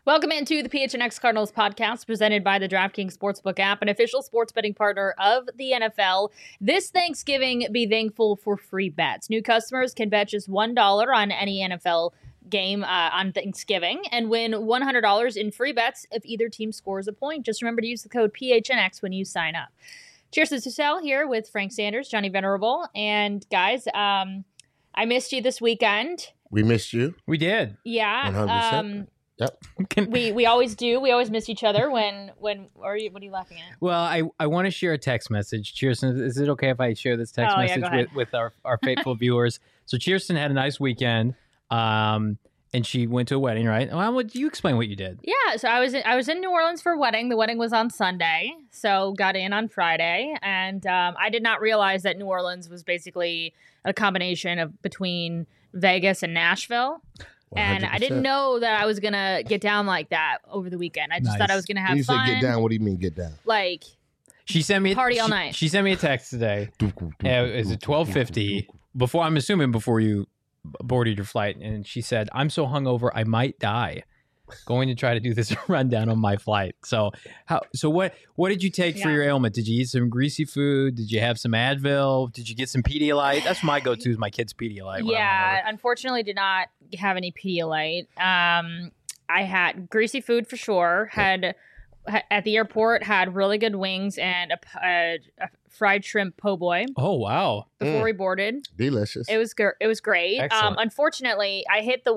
Welcome into the PHNX Cardinals podcast presented by the DraftKings Sportsbook app, an official sports betting partner of the NFL. This Thanksgiving, be thankful for free bets. New customers can bet just $1 on any NFL game on Thanksgiving and win $100 in free bets if either team scores a point. Just remember to use the code PHNX when you sign up. Cheers to Sal here with Frank Sanders, Johnny Venerable, and guys, I missed you this weekend. We missed you. We did. Yeah. 100%. Yep. We always do. We always miss each other when what are you laughing at? Well, I want to share a text message. Cheerson, is it okay if I share this text message with our faithful viewers? So Cheerson had a nice weekend, and she went to a wedding, right? Well, would you explain what you did? Yeah, so I was in New Orleans for a wedding. The wedding was on Sunday, so got in on Friday, and I did not realize that New Orleans was basically a combination of between Vegas and Nashville. 100%. And I didn't know that I was going to get down like that over the weekend. I just thought I was going to have you fun. You said get down. What do you mean get down? Like, she sent me party all night. She sent me a text today. It was at 12:50. Before you boarded your flight. And she said, I'm so hungover, I might die. Going to try to do this rundown on my flight. So what did you take for your ailment? Did you eat some greasy food? Did you have some Advil? Did you get some Pedialyte? That's my go-to is my kids' Pedialyte. Yeah, unfortunately did not have any Pedialyte. I had greasy food for sure. Had at the airport, had really good wings and a fried shrimp po' boy. Oh, wow. Before we boarded. Delicious. It was great. Unfortunately, I hit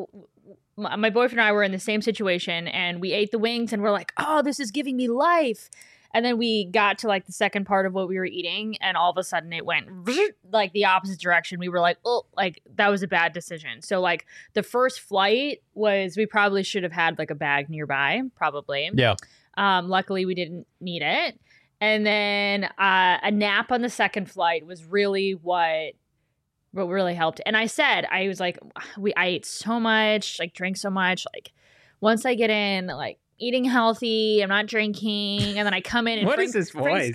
my boyfriend and I were in the same situation, and we ate the wings, and we're like, oh, this is giving me life. And then we got to like the second part of what we were eating, and all of a sudden it went like the opposite direction. We were like, oh, like that was a bad decision. So like the first flight we probably should have had like a bag nearby, probably. Yeah. Luckily we didn't need it. And then a nap on the second flight was really what really helped. And I was like, I ate so much, like drank so much, like once I get in, like eating healthy, I'm not drinking, and then I come in and what is this voice?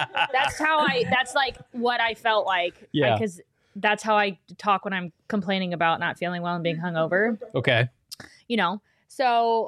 That's like what I felt like. Yeah. Because that's how I talk when I'm complaining about not feeling well and being hungover. Okay. So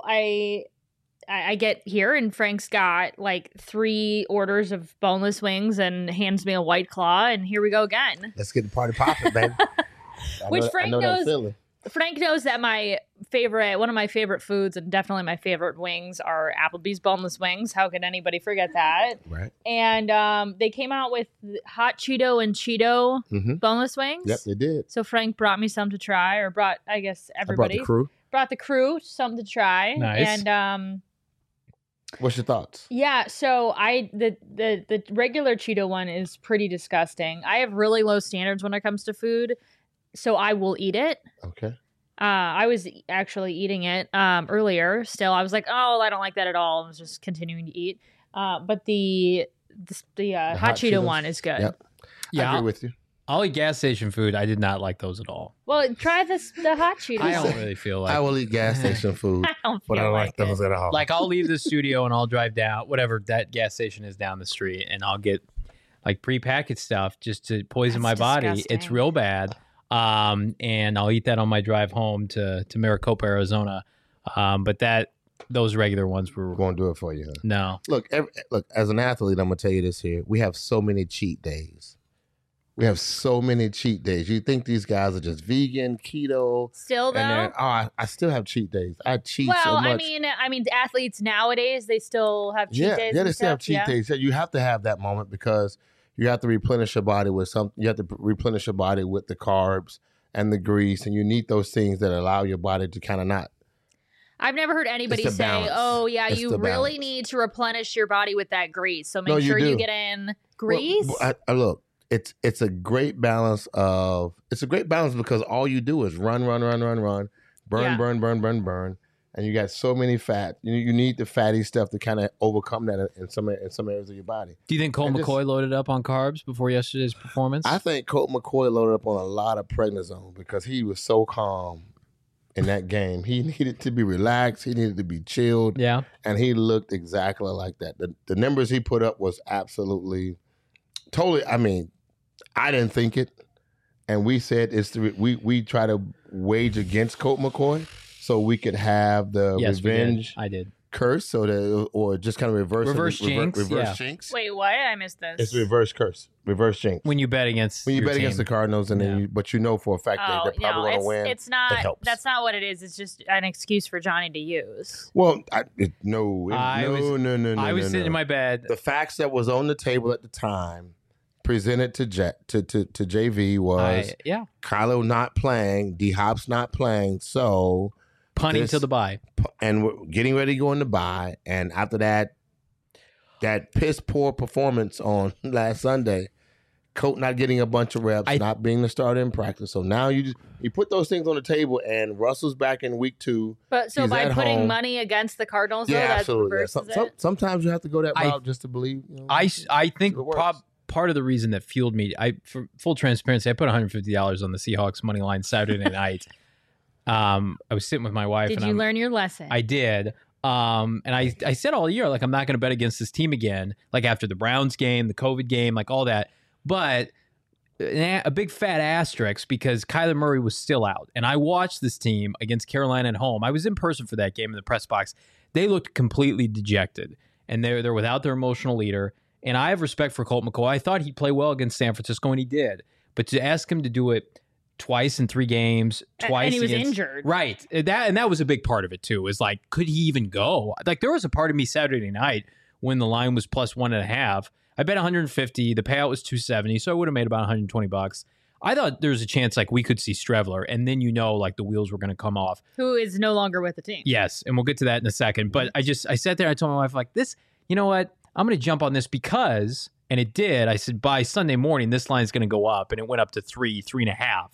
I get here and Frank's got like 3 orders of boneless wings and hands me a White Claw, and here we go again. Let's get the party popping, baby. Frank knows that one of my favorite foods and definitely my favorite wings are Applebee's boneless wings. How could anybody forget that? Right. And they came out with hot Cheeto and Cheeto boneless wings. Yep, they did. So Frank brought me some to try, or brought, I guess, everybody. Brought the crew some to try. Nice. And what's your thoughts? Yeah, so the regular Cheeto one is pretty disgusting. I have really low standards when it comes to food, so I will eat it. Okay. I was actually eating it earlier. Still, I was like, oh, I don't like that at all. I was just continuing to eat. But the hot Cheeto one is good. Yep. Yeah, I agree with you. I'll eat gas station food. I did not like those at all. Well, try the hot Cheetos. I don't really feel like I will eat gas station food, but I don't like those at all. Like I'll leave the studio and I'll drive down whatever that gas station is down the street, and I'll get like prepackaged stuff just to poison my body. Disgusting. It's real bad. And I'll eat that on my drive home to Maricopa, Arizona. But those regular ones won't do it for you. Huh? No. Look, as an athlete, I'm gonna tell you this here. We have so many cheat days. You think these guys are just vegan, keto? Still though? I still have cheat days. I cheat so much. I mean, athletes nowadays, they still have cheat days. Yeah, they still have cheat days. You have to have that moment because you have to replenish your body with something. You have to replenish your body with the carbs and the grease, and you need those things that allow your body to kind of not. I've never heard anybody say, balance. oh, yeah, It's you the really balance. need to replenish your body with that grease. So make sure you you get in grease. Look, it's a great balance because all you do is run, burn. And you got so many fat. You need the fatty stuff to kind of overcome that in some areas of your body. Do you think Colt McCoy loaded up on carbs before yesterday's performance? I think Colt McCoy loaded up on a lot of prednisone because he was so calm in that game. He needed to be relaxed. He needed to be chilled. Yeah. And he looked exactly like that. The numbers he put up was absolutely, totally, I mean, I didn't think it. And we said we try to wage against Colt McCoy. so we could have the revenge I did. curse, or just kind of reverse jinx. Reverse jinx. Wait, what? I missed this. It's reverse curse, reverse jinx. When you bet against the Cardinals, and then but you know for a fact that they're probably going to win. It's not. It helps. That's not what it is. It's just an excuse for Johnny to use. Well, no. I was sitting in my bed. The facts that was on the table at the time, presented to JV, was Kylo not playing, D Hop's not playing, so punting to the bye, and we're getting ready to go in the bye. And after that piss poor performance on last Sunday, Colt not getting a bunch of reps, not being the starter in practice. So now you put those things on the table, and Russell's back in week 2. But so by putting money against the Cardinals, absolutely. Sometimes you have to go that route just to believe. I think part of the reason that fueled me, for full transparency, I put $150 on the Seahawks money line Saturday night. I was sitting with my wife. Did you learn your lesson? I did. And I said all year, like, I'm not going to bet against this team again, like after the Browns game, the COVID game, like all that. But a big fat asterisk because Kyler Murray was still out. And I watched this team against Carolina at home. I was in person for that game in the press box. They looked completely dejected. And they're without their emotional leader. And I have respect for Colt McCoy. I thought he'd play well against San Francisco, and he did. But to ask him to do it twice in 3 games, twice, and he was injured, right? That was a big part of it too. Is like, could he even go? Like, there was a part of me Saturday night when the line was plus 1.5. I bet 150. The payout was 270, so I would have made about $120. I thought there was a chance like we could see Streveler, and then like the wheels were going to come off. Who is no longer with the team? Yes, and we'll get to that in a second. But I sat there. I told my wife, like, this. You know what? I'm going to jump on this because, and it did. I said by Sunday morning this line is going to go up, and it went up to 3.5.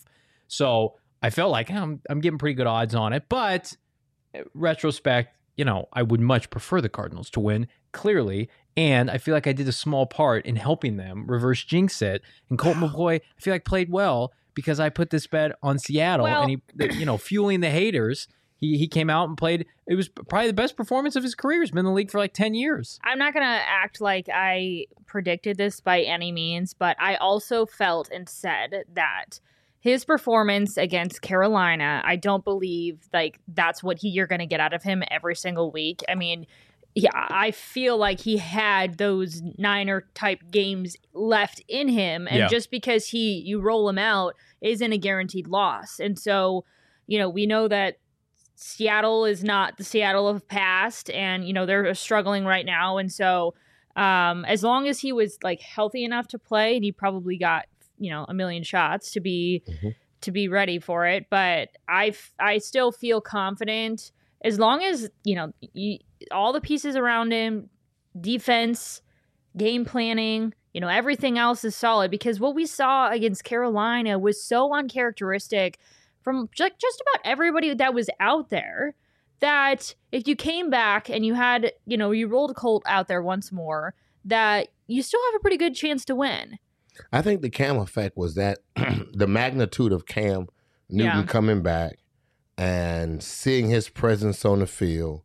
So I felt like I'm getting pretty good odds on it. But retrospect, I would much prefer the Cardinals to win, clearly. And I feel like I did a small part in helping them reverse jinx it. And Colt McCoy, I feel like played well because I put this bet on Seattle, and he, fueling the haters. He came out and played. It was probably the best performance of his career. He's been in the league for like 10 years. I'm not going to act like I predicted this by any means, but I also felt and said that his performance against Carolina, I don't believe like that's what you're going to get out of him every single week. I mean, yeah, I feel like he had those Niner type games left in him. And just because you roll him out isn't a guaranteed loss. And so, we know that Seattle is not the Seattle of past, and they're struggling right now. And so as long as he was like healthy enough to play, and he probably got a million shots to be ready for it, but I still feel confident as long as all the pieces around him, defense, game planning, everything else is solid, because what we saw against Carolina was so uncharacteristic from just about everybody that was out there, that if you came back and you had, you rolled Colt out there once more, that you still have a pretty good chance to win. I think the Cam effect was that the magnitude of Cam Newton coming back and seeing his presence on the field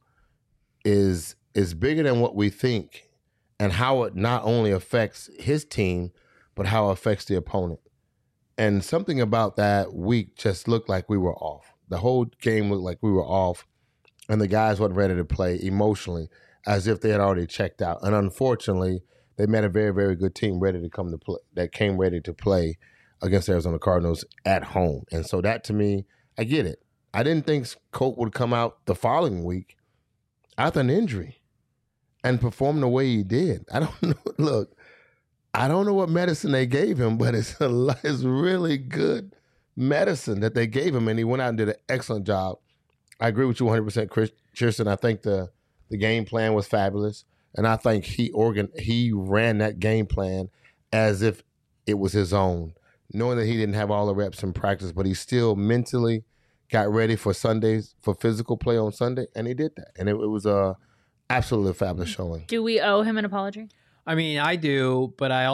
is bigger than what we think, and how it not only affects his team, but how it affects the opponent. And something about that week just looked like we were off. The whole game looked like we were off, and the guys weren't ready to play emotionally, as if they had already checked out. And unfortunately, they met a very, very good team ready to come to play, that came ready to play against the Arizona Cardinals at home. And so that, to me, I get it. I didn't think Colt would come out the following week after an injury and perform the way he did. I don't know. Look, I don't know what medicine they gave him, but it's really good medicine that they gave him, and he went out and did an excellent job. I agree with you 100%, Kirsten. I think the game plan was fabulous, and I think he ran that game plan as if it was his own, knowing that he didn't have all the reps in practice, but he still mentally got ready for Sundays, for physical play on Sunday, and he did that. And it was a absolutely fabulous showing. Do we owe him an apology? I mean, I do, but I'm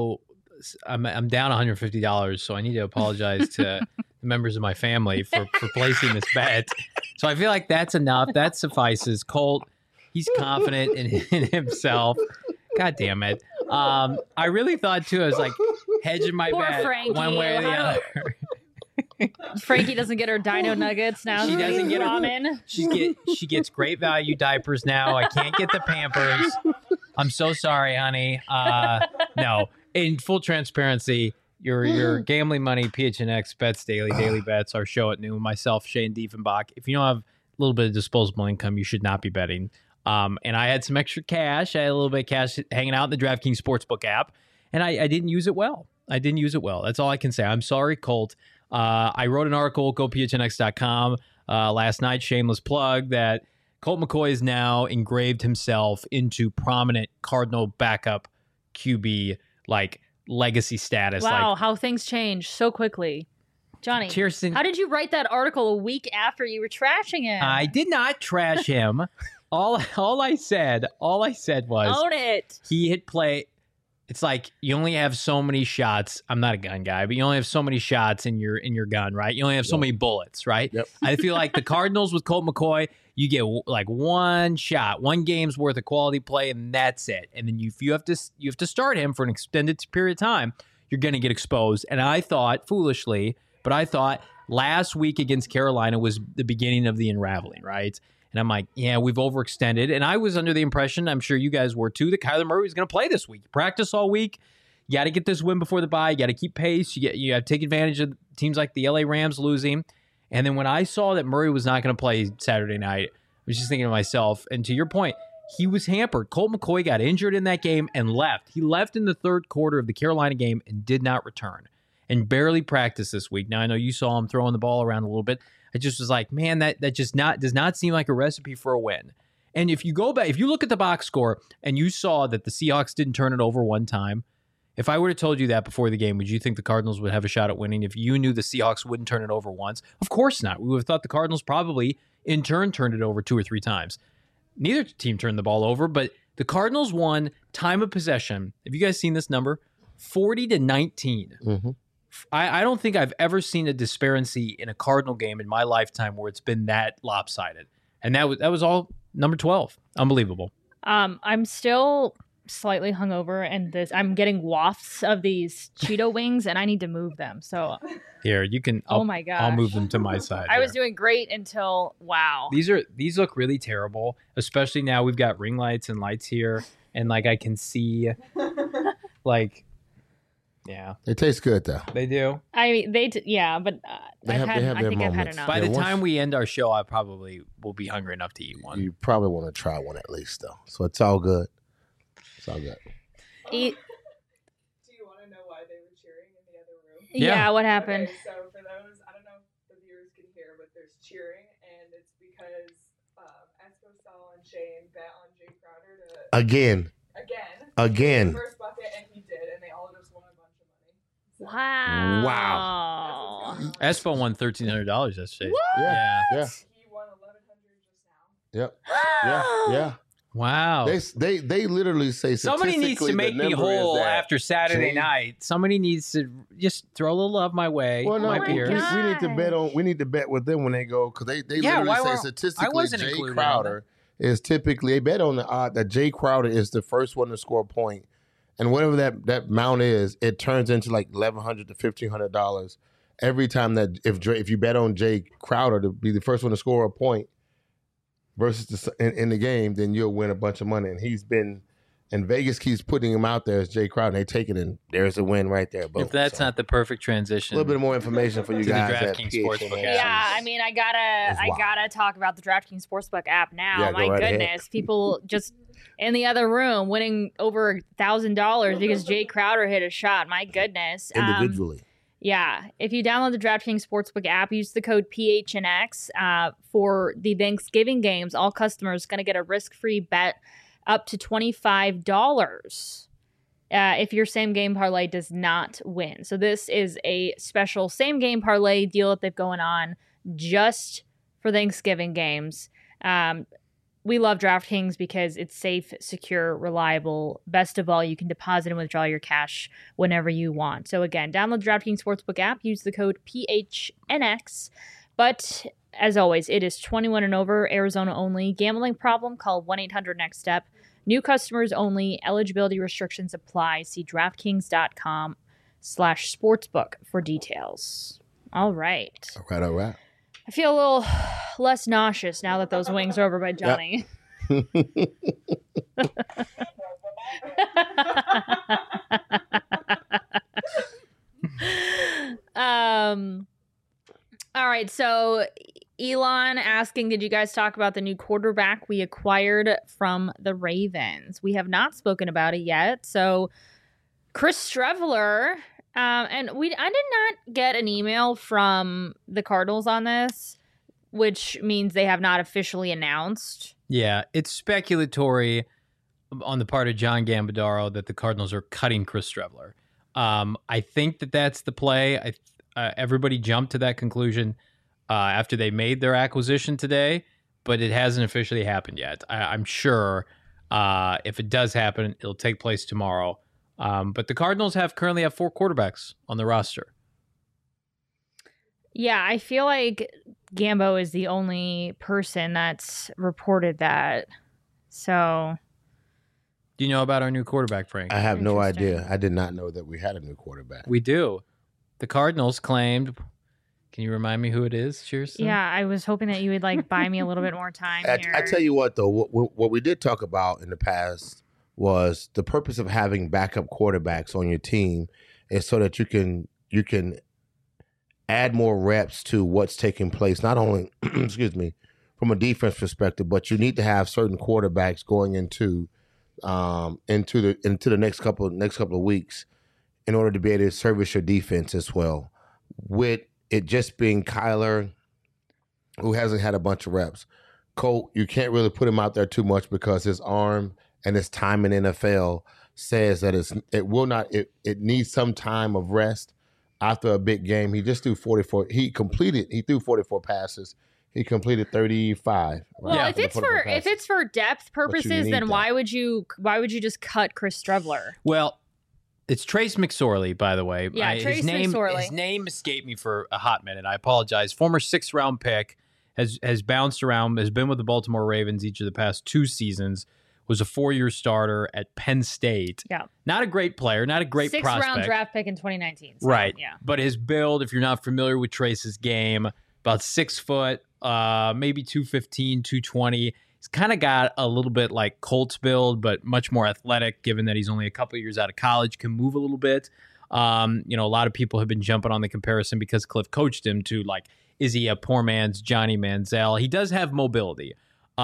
down $150, so I need to apologize to the members of my family for placing this bet. So I feel like that's enough. That suffices. Colt, he's confident in himself. God damn it. I really thought, too, I was like hedging my bet one way or the other. Frankie doesn't get her Dino Nuggets now. She doesn't get ramen. She gets great value diapers now. I can't get the Pampers. I'm so sorry, honey. No, in full transparency, your gambling money, PHNX bets daily bets, our show at noon. Myself, Shane Diefenbach. If you don't have a little bit of disposable income, you should not be betting. And I had some extra cash. I had a little bit of cash hanging out in the DraftKings Sportsbook app, and I didn't use it well. That's all I can say. I'm sorry, Colt. I wrote an article, gophnx.com, last night, shameless plug, that Colt McCoy has now engraved himself into prominent Cardinal backup QB, like, legacy status. Wow, like, how things change so quickly. Johnny, Kirsten, how did you write that article a week after you were trashing him? I did not trash him. all I said was own it. He hit play. It's like you only have so many shots. I'm not a gun guy, but you only have so many shots in your gun, right? You only have so many bullets, right? Yep. I feel like the Cardinals with Colt McCoy, you get like one shot, one game's worth of quality play, and that's it. And then you have to start him for an extended period of time. You're going to get exposed. And I thought, foolishly, last week against Carolina was the beginning of the unraveling, right? And I'm like, yeah, we've overextended. And I was under the impression, I'm sure you guys were too, that Kyler Murray was going to play this week. Practice all week. You got to get this win before the bye. You got to keep pace. You have to take advantage of teams like the LA Rams losing. And then when I saw that Murray was not going to play Saturday night, I was just thinking to myself, and to your point, he was hampered. Colt McCoy got injured in that game and left. He left in the third quarter of the Carolina game and did not return and barely practiced this week. Now, I know you saw him throwing the ball around a little bit. I just was like, man, that just does not seem like a recipe for a win. And if you go back, if you look at the box score and you saw that the Seahawks didn't turn it over one time, if I would have told you that before the game, would you think the Cardinals would have a shot at winning if you knew the Seahawks wouldn't turn it over once? Of course not. We would have thought the Cardinals probably, in turn, turned it over 2 or 3 times. Neither team turned the ball over, but the Cardinals won time of possession. Have you guys seen this number? 40-19. Mm-hmm. I don't think I've ever seen a disparity in a Cardinal game in my lifetime where it's been that lopsided. And that was all number 12. Unbelievable. I'm still slightly hungover, and I'm getting wafts of these Cheeto wings, and I need to move them. So here, you can. Oh my gosh. I'll move them to my side. I was doing great until wow. These look really terrible, especially now we've got ring lights and lights here, and like I can see, like. Yeah, they taste good though. They do. I mean, yeah, but I think I've had enough. By the time we end our show, I probably will be hungry enough to eat one. You probably want to try one at least, though. So it's all good. It's all good. Do you want to know why they were cheering in the other room? Yeah, what happened? Okay, so for those, I don't know if the viewers can hear, but there's cheering, and it's because Espo, Saul, and Shane bet on Jay Crowder to again. The first bucket, and he did, and they all just won a bunch of money. So. Wow. Espo won $1,300 yesterday. Yeah. He won $1,100 just now. Yep. Yeah. Wow. They literally say somebody needs to make me whole after Saturday night. Somebody needs to just throw a little love my way. Well, no, my we beer. need to bet with them when they go, because they literally say statistically Jay Crowder is typically, they bet on the odd that Jay Crowder is the first one to score a point, and whatever that amount is, it turns into like $1,100 to $1,500 every time that if you bet on Jay Crowder to be the first one to score a point versus in the game, then you'll win a bunch of money. And he's been, and Vegas keeps putting him out there as Jay Crowder, and they take it, and there's a win right there. Boom. If that's not the perfect transition, a little bit more information for you guys. The DraftKings Sportsbook app. Yeah, I mean, I gotta talk about the DraftKings Sportsbook app now. Yeah, my goodness, people just in the other room winning over $1,000 because Jay Crowder hit a shot. My goodness, individually. Yeah, if you download the DraftKings Sportsbook app, use the code PHNX for the Thanksgiving games. All customers going to get a risk-free bet up to $25 if your same-game parlay does not win. So this is a special same-game parlay deal that they've going on just for Thanksgiving games. We love DraftKings because it's safe, secure, reliable. Best of all, you can deposit and withdraw your cash whenever you want. So again, download the DraftKings Sportsbook app, use the code PHNX. But as always, it is 21 and over, Arizona only. Gambling problem? Call 1-800-NEXT-STEP. New customers only. Eligibility restrictions apply. See DraftKings.com/sportsbook for details. All right. All right. I feel a little less nauseous now that those wings are over by Johnny. Yep. All right, so Elon asking, did you guys talk about the new quarterback we acquired from the Ravens? We have not spoken about it yet. So Chris Streveler, and I did not get an email from the Cardinals on this, which means they have not officially announced. Yeah, it's speculatory on the part of John Gambadaro that the Cardinals are cutting Chris Streveler. I think that's the play. Everybody jumped to that conclusion after they made their acquisition today, but it hasn't officially happened yet. I'm sure if it does happen, it'll take place tomorrow. But the Cardinals currently have 4 quarterbacks on the roster. Yeah, I feel like Gambo is the only person that's reported that. So, do you know about our new quarterback, Frank? I have no idea. I did not know that we had a new quarterback. We do. The Cardinals claimed. Can you remind me who it is, Shearson? Yeah, I was hoping that you would buy me a little bit more time here. I tell you what, though, what we did talk about in the past was the purpose of having backup quarterbacks on your team is so that you can add more reps to what's taking place, not only from a defense perspective, but you need to have certain quarterbacks going into the next couple of weeks in order to be able to service your defense as well. With it just being Kyler, who hasn't had a bunch of reps, Colt, you can't really put him out there too much because his arm and his time in NFL says that it needs some time of rest after a big game. He just threw 44. He threw 44 passes. He completed 35. Well, right? if it's for depth purposes, then why would you just cut Chris Streveler? Well, it's Trace McSorley, by the way. Yeah, Trace McSorley. His name escaped me for a hot minute. I apologize. Former 6th-round pick, has bounced around, has been with the Baltimore Ravens each of the past 2 seasons, was a 4-year starter at Penn State. Yeah. Not a great player, not a great prospect. 6th-round draft pick in 2019. So, right. Yeah. But his build, if you're not familiar with Trace's game, about 6 foot, maybe 215, 220. He's kind of got a little bit like Colt's build, but much more athletic, given that he's only a couple of years out of college, can move a little bit. A lot of people have been jumping on the comparison because Cliff coached him to, is he a poor man's Johnny Manziel? He does have mobility.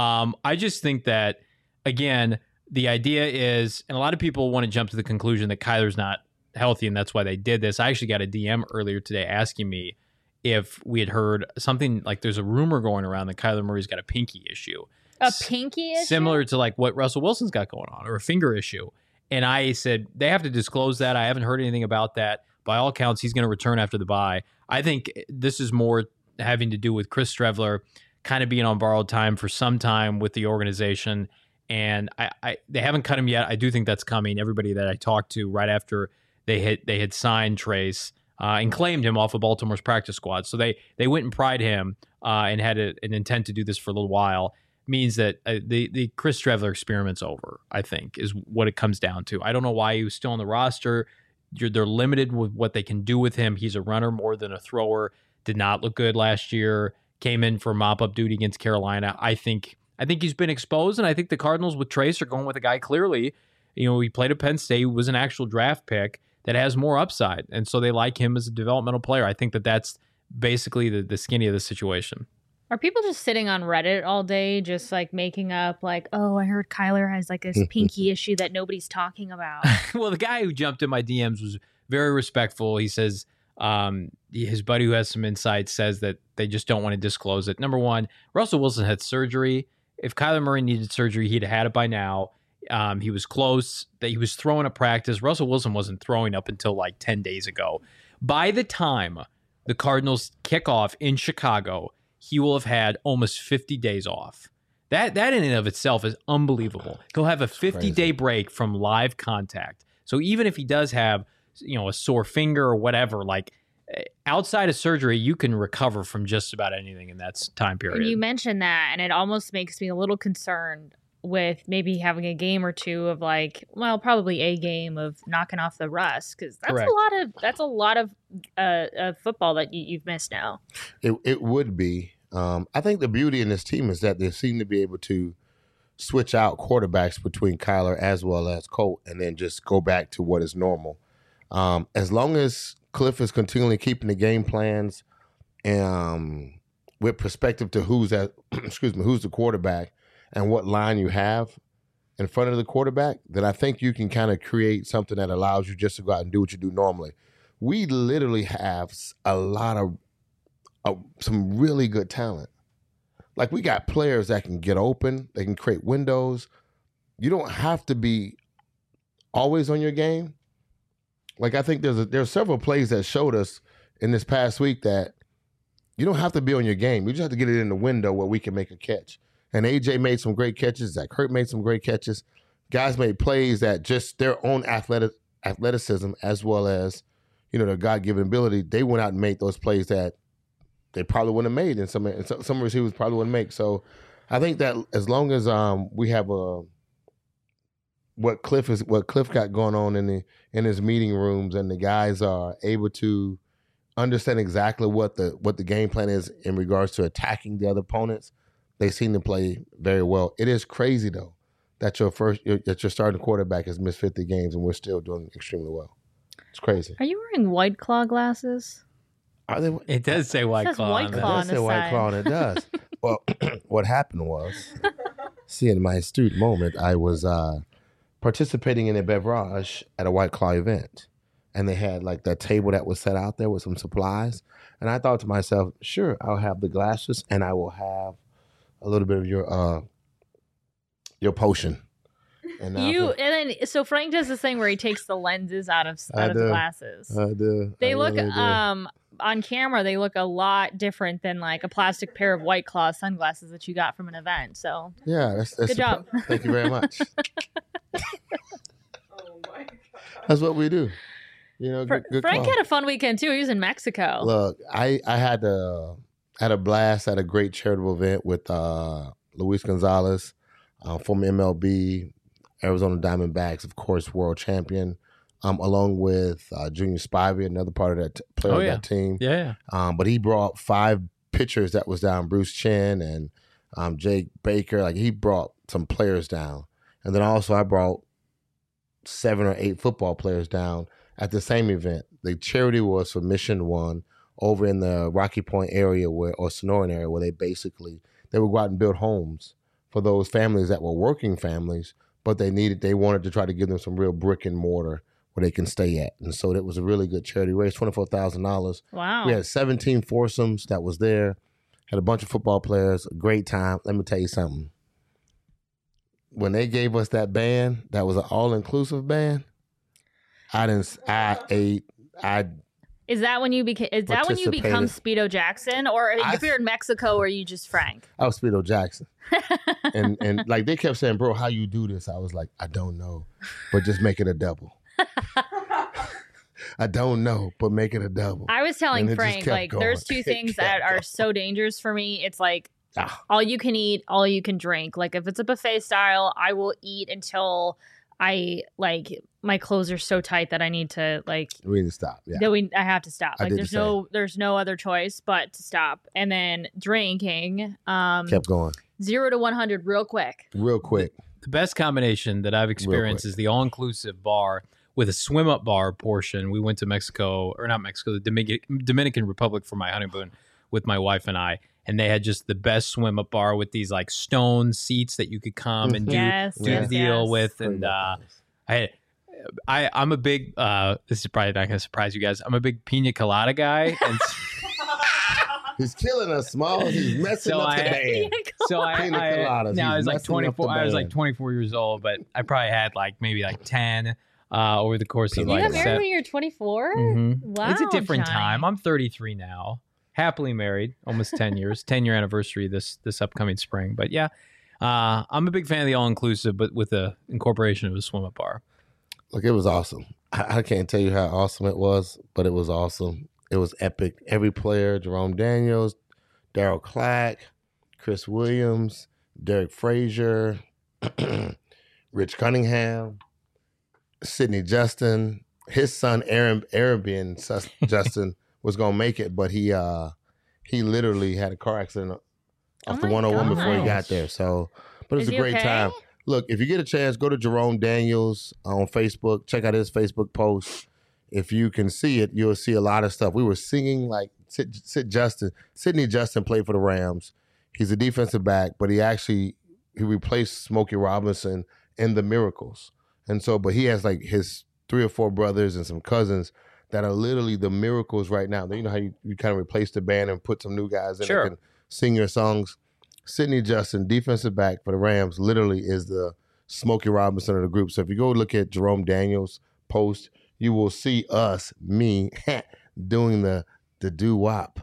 I just think that, again, the idea is, and a lot of people want to jump to the conclusion that Kyler's not healthy, and that's why they did this. I actually got a DM earlier today asking me if we had heard something like there's a rumor going around that Kyler Murray's got a pinky issue. A pinky issue? Similar to what Russell Wilson's got going on, or a finger issue. And I said, they have to disclose that. I haven't heard anything about that. By all accounts, he's going to return after the bye. I think this is more having to do with Chris Streveler kind of being on borrowed time for some time with the organization. And they haven't cut him yet. I do think that's coming. Everybody that I talked to right after they had signed Trace and claimed him off of Baltimore's practice squad. So they went and pried him and had an intent to do this for a little while. Means that the Chris Streveler experiment's over, I think, is what it comes down to. I don't know why he was still on the roster. They're limited with what they can do with him. He's a runner more than a thrower. Did not look good last year. Came in for mop-up duty against Carolina. I think he's been exposed, and I think the Cardinals with Trace are going with a guy clearly. He played at Penn State, was an actual draft pick that has more upside, and so they like him as a developmental player. I think that's basically the skinny of the situation. Are people just sitting on Reddit all day, just making up oh, I heard Kyler has this pinky issue that nobody's talking about? Well, the guy who jumped in my DMs was very respectful. He says his buddy who has some insight says that they just don't want to disclose it. Number one, Russell Wilson had surgery. If Kyler Murray needed surgery, he'd have had it by now. He was close. That he was throwing at practice. Russell Wilson wasn't throwing up until 10 days ago. By the time the Cardinals kick off in Chicago, he will have had almost 50 days off. That in and of itself is unbelievable. He'll have a 50-day break from live contact. So even if he does have, a sore finger or whatever, outside of surgery, you can recover from just about anything in that time period. And you mentioned that, and it almost makes me a little concerned with maybe having a game or two of like, well, probably a game of knocking off the rust, because that's a lot of football that you've missed now. It would be. I think the beauty in this team is that they seem to be able to switch out quarterbacks between Kyler as well as Colt, and then just go back to what is normal. As long as Cliff is continually keeping the game plans with perspective to who's the quarterback and what line you have in front of the quarterback, then I think you can kind of create something that allows you just to go out and do what you do normally. We literally have a lot of some really good talent. Like, we got players that can get open, they can create windows. You don't have to be always on your game. Like, I think there's several plays that showed us in this past week that you don't have to be on your game. You just have to get it in the window where we can make a catch. And AJ made some great catches. Zach Hurt made some great catches. Guys made plays that just their own athleticism as well as, their God-given ability, they went out and made those plays that they probably wouldn't have made, and some receivers probably wouldn't make. So I think that as long as we have what Cliff got going on in his meeting rooms, and the guys are able to understand exactly what the game plan is in regards to attacking the other opponents, they seem to play very well. It is crazy though that your starting quarterback has missed 50 games and we're still doing extremely well. It's crazy. Are you wearing White Claw glasses? It does say White Claw. White Claw on the side. White Claw, and it does. Well, what happened was, in my astute moment, I was participating in a beverage at a White Claw event, and they had like that table that was set out there with some supplies, and I thought to myself, sure, I'll have the glasses, and I will have a little bit of your potion. So Frank does this thing where he takes the lenses out of the glasses. I do. They look on camera, they look a lot different than like a plastic pair of White Claw sunglasses that you got from an event. So yeah, that's good job. Thank you very much. Oh my God. That's what we do. Good Frank call. had a fun weekend too. He was in Mexico. Look, I had a blast at a great charitable event with Luis Gonzalez, former MLB, Arizona Diamondbacks, of course, world champion, along with Junior Spivey, another part of that player of that team. Yeah. But he brought 5 pitchers that was down, Bruce Chen and Jake Baker. Like, he brought some players down. And then also I brought 7 or 8 football players down at the same event. The charity was for Mission One over in the Rocky Point area or Sonoran area, where they would go out and build homes for those families that were working families, but they wanted to try to give them some real brick and mortar where they can stay at. And so it was a really good charity. Raised $24,000. Wow. We had 17 foursomes that was there. Had a bunch of football players. A great time. Let me tell you something. When they gave us that band, that was an all-inclusive band, I ate. Is that when you become Speedo Jackson, or if you're in Mexico, or are you just Frank? I was Speedo Jackson, and like they kept saying, "Bro, how you do this?" I was like, "I don't know, but just make it a double." I don't know, but make it a double. I was telling Frank, like, there's 2 things that are so dangerous for me. It's like all you can eat, all you can drink. Like, if it's a buffet style, I will eat until my clothes are so tight that I need to we need to stop. Yeah. I have to stop. Like, there's no other choice but to stop. And then drinking, kept going 0 to 100 real quick. The best combination that I've experienced is the all-inclusive bar with a swim-up bar portion. We went to the Dominican Republic for my honeymoon with my wife and I. And they had just the best swim-up bar with these like stone seats that you could come and do the deal with. And I'm a big, this is probably not going to surprise you guys, I'm a big pina colada guy. And he's killing us, Smalls. He's messing up the band. I was like 24. I was like 24 years old, but I probably had maybe 10 over the course of You got married when you're 24? Mm-hmm. Wow. It's a different Johnny. time. I'm 33 now. Happily married, almost 10 years, 10-year anniversary this upcoming spring. But yeah, I'm a big fan of the all-inclusive, but with the incorporation of a swim-up bar. Look, it was awesome. I can't tell you how awesome it was, but it was awesome. It was epic. Every player, Jerome Daniels, Daryl Clack, Chris Williams, Derek Frazier, Rich Cunningham, Sidney Justin, his son Arabian Justin was gonna make it, but he literally had a car accident off the 101 before he got there. So, but it was a great time. Look, if you get a chance, go to Jerome Daniels on Facebook. Check out his Facebook post. If you can see it, you'll see a lot of stuff. We were singing like Sidney Justin played for the Rams. He's a defensive back, but he replaced Smokey Robinson in the Miracles. And so, but he has like his 3 or 4 brothers and some cousins that are literally the Miracles right now. You know how you kind of replace the band and put some new guys in that can sing your songs. Sidney Justin, defensive back for the Rams, literally is the Smokey Robinson of the group. So if you go look at Jerome Daniels' post, you will see me doing the doo-wop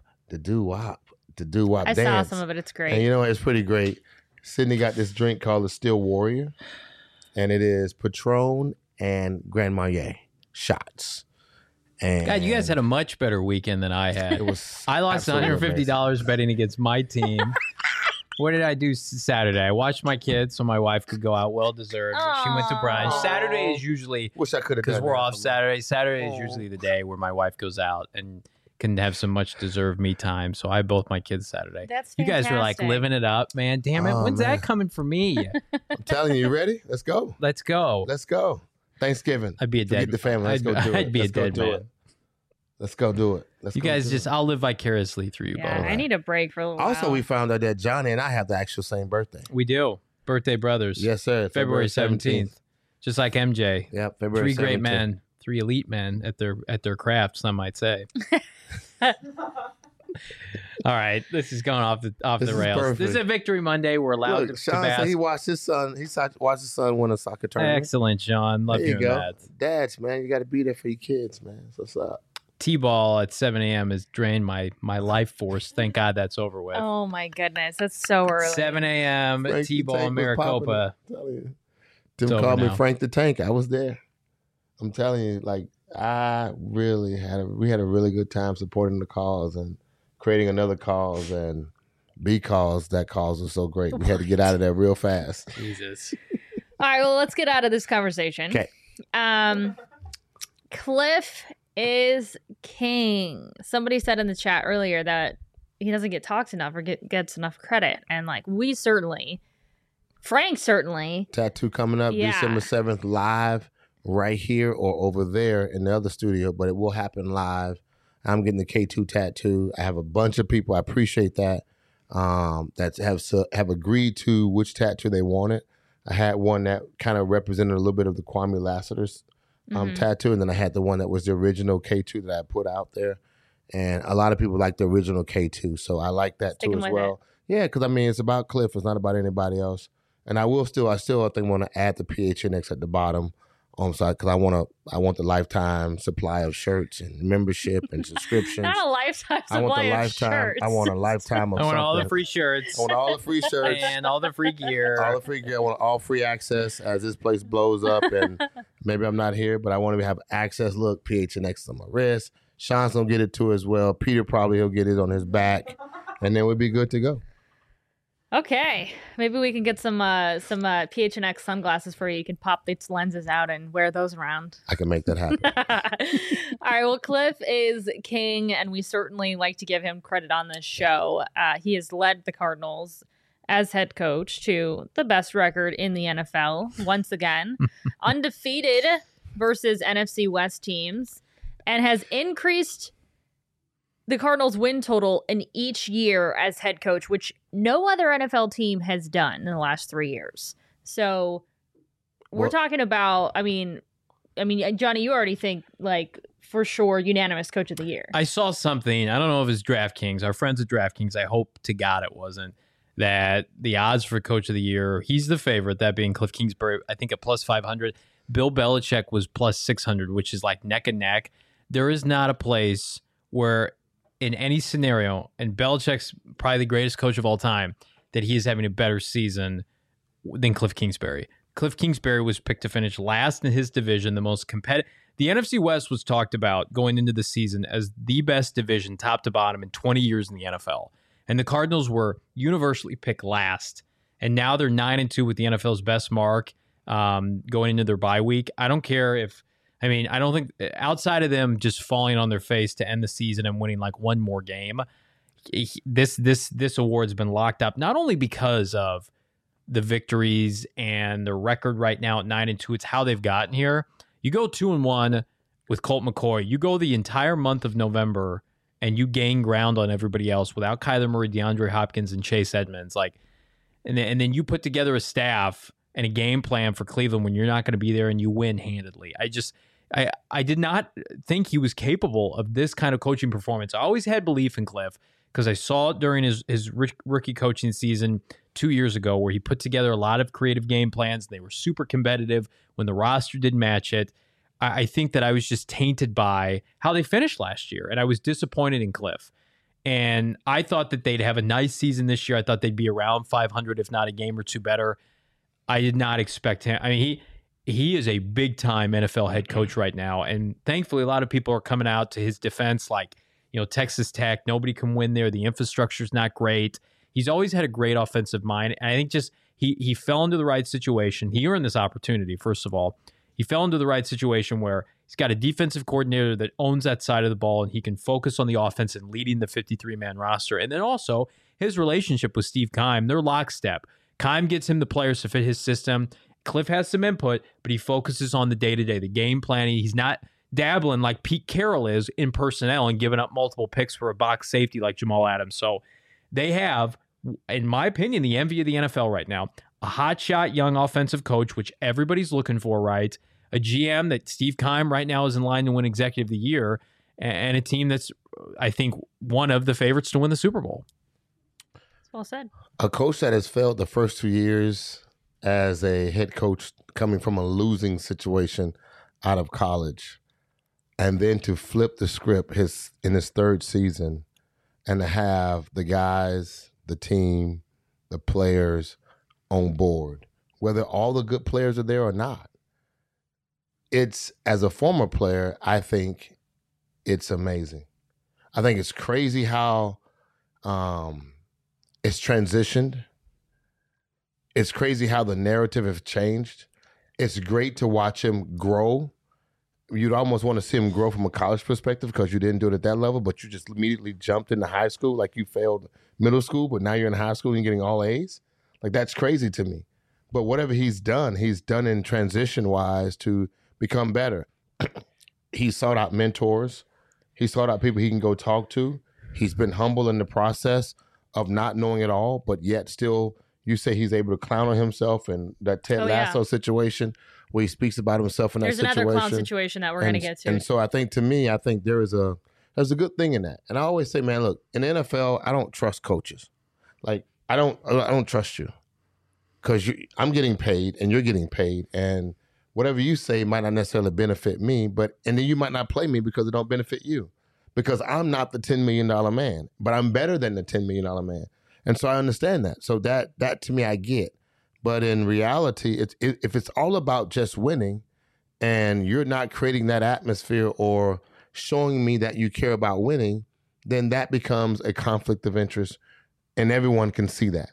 I dance. saw some of it. It's great. And you know, it's pretty great. Sidney got this drink called the Steel Warrior, and it is Patron and Grand Marnier shots. And God, you guys had a much better weekend than I had. I lost $150 betting against my team. What did I do Saturday? I watched my kids so my wife could go out. Well deserved. She went to brunch. Saturday is usually wish I could have because we're off Saturday. Saturday is usually the day where my wife goes out and can have some much deserved me time. So I had both my kids Saturday. That's fantastic. You guys were like living it up, man. Damn it. When's that coming for me? I'm telling you, ready? Let's go. Let's go. Let's go. Thanksgiving. I'd be a dead the family. Let's go do it. I'd be a dead man. Let's go do it. You guys just, I'll live vicariously through you both. I need a break for a little while. Also, we found out that Johnny and I have the actual same birthday. We do. Birthday brothers. Yes, sir. February 17th. Just like MJ. Yep, February 17th. 3 great men, 3 elite men at their craft, some might say. All right, this is going off the rails. Perfect. This is a Victory Monday. We're allowed to Sean bask. said he watched his son. Watched his son win a soccer tournament. Excellent, Sean. Love there you hearing go. that. Dads, man, you got to be there for your kids, man. So what's up? T-ball at 7 a.m. has drained my life force. Thank God that's over with. Oh my goodness, that's so early. 7 a.m. T-ball in Maricopa. Tim called me Frank the Tank. I was there. I'm telling you, like we had a really good time supporting the cause and creating another cause and because that cause was so great. We had to get out of there real fast. Jesus. All right, well, let's get out of this conversation. Okay. Cliff is king. Somebody said in the chat earlier that he doesn't get talked enough or gets enough credit. And like Frank certainly. Tattoo coming up December 7th live right here or over there in the other studio, but it will happen live. I'm getting the K2 tattoo. I have a bunch of people. I appreciate that. That have agreed to which tattoo they wanted. I had one that kind of represented a little bit of the Kwame Lassiter's tattoo, and then I had the one that was the original K2 that I put out there. And a lot of people like the original K2, so I like that too as well. Yeah, because I mean it's about Cliff. It's not about anybody else. And I still I think want to add the PHNX at the bottom. Because I want the lifetime supply of shirts and membership and subscriptions. Not a lifetime supply of shirts. I want a lifetime of I want something. all the free shirts. I want all the free shirts. And all the free gear. All the free gear. I want all free access as this place blows up and maybe I'm not here, but I want to have access. Look, PHNX on my wrist. Sean's going to get it too as well. Peter probably he'll get it on his back. And then we'll be good to go. Okay, maybe we can get some PHNX sunglasses for you. You can pop its lenses out and wear those around. I can make that happen. All right, well, Cliff is king, and we certainly like to give him credit on this show. He has led the Cardinals as head coach to the best record in the NFL, once again. Undefeated versus NFC West teams, and has increased the Cardinals' win total in each year as head coach, which no other NFL team has done in the last 3 years. So we're talking about, I mean, Johnny, you already think like for sure unanimous coach of the year. I saw something. I don't know if it's DraftKings. Our friends at DraftKings, I hope to God it wasn't, that the odds for coach of the year, he's the favorite, that being Cliff Kingsbury, I think at plus 500. Bill Belichick was plus 600, which is like neck and neck. There is not a place where in any scenario, and Belichick's probably the greatest coach of all time, that he is having a better season than Cliff Kingsbury. Cliff Kingsbury was picked to finish last in his division, the most competitive. The NFC West was talked about going into the season as the best division, top to bottom, in 20 years in the NFL. And the Cardinals were universally picked last and now they're 9-2 with the NFL's best mark going into their bye week. I don't care if, I mean, I don't think outside of them just falling on their face to end the season and winning like one more game, this award's been locked up, not only because of the victories and the record right now at 9-2, it's how they've gotten here. You go 2-1 with Colt McCoy. You go the entire month of November and you gain ground on everybody else without Kyler Murray, DeAndre Hopkins, and Chase Edmonds. Like, and then you put together a staff and a game plan for Cleveland when you're not going to be there and you win handedly. I did not think he was capable of this kind of coaching performance. I always had belief in Cliff because I saw it during his rookie coaching season 2 years ago where he put together a lot of creative game plans. They were super competitive when the roster didn't match it. I think that I was just tainted by how they finished last year, and I was disappointed in Cliff. And I thought that they'd have a nice season this year. I thought they'd be around 500, if not a game or two better. I did not expect him. I mean, he is a big-time NFL head coach right now, and thankfully a lot of people are coming out to his defense, like, you know, Texas Tech, nobody can win there. The infrastructure's not great. He's always had a great offensive mind, and I think just he fell into the right situation. He earned this opportunity, first of all. He fell into the right situation where he's got a defensive coordinator that owns that side of the ball, and he can focus on the offense and leading the 53-man roster. And then also his relationship with Steve Keim, they're lockstep. Keim gets him the players to fit his system. Cliff has some input, but he focuses on the day-to-day, the game planning. He's not dabbling like Pete Carroll is in personnel and giving up multiple picks for a box safety like Jamal Adams. So they have, in my opinion, the envy of the NFL right now. A hotshot young offensive coach, which everybody's looking for, right? A GM that Steve Keim right now is in line to win Executive of the Year, and a team that's, I think, one of the favorites to win the Super Bowl. That's well said. A coach that has failed the first 2 years as a head coach coming from a losing situation out of college, and then to flip the script in his third season and to have the guys, the team, the players on board, whether all the good players are there or not. It's, as a former player, I think it's amazing. I think it's crazy how it's transitioned. It's crazy how the narrative has changed. It's great to watch him grow. You'd almost want to see him grow from a college perspective because you didn't do it at that level, but you just immediately jumped into high school like you failed middle school, but now you're in high school and you're getting all A's. Like, that's crazy to me. But whatever he's done in transition-wise to become better. He sought out mentors. He sought out people he can go talk to. He's been humble in the process of not knowing it all, but yet still, you say he's able to clown on himself, and that Ted Lasso situation where he speaks about himself in that situation. There's another clown situation that we're going to get to. And so I think, to me, there's a good thing in that. And I always say, man, look, in the NFL, I don't trust coaches. Like, I don't trust you because I'm getting paid and you're getting paid, and whatever you say might not necessarily benefit me, and then you might not play me because it don't benefit you, because I'm not the $10 million man, but I'm better than the $10 million man. And so I understand that. So that to me, I get. But in reality, if it's all about just winning and you're not creating that atmosphere or showing me that you care about winning, then that becomes a conflict of interest, and everyone can see that.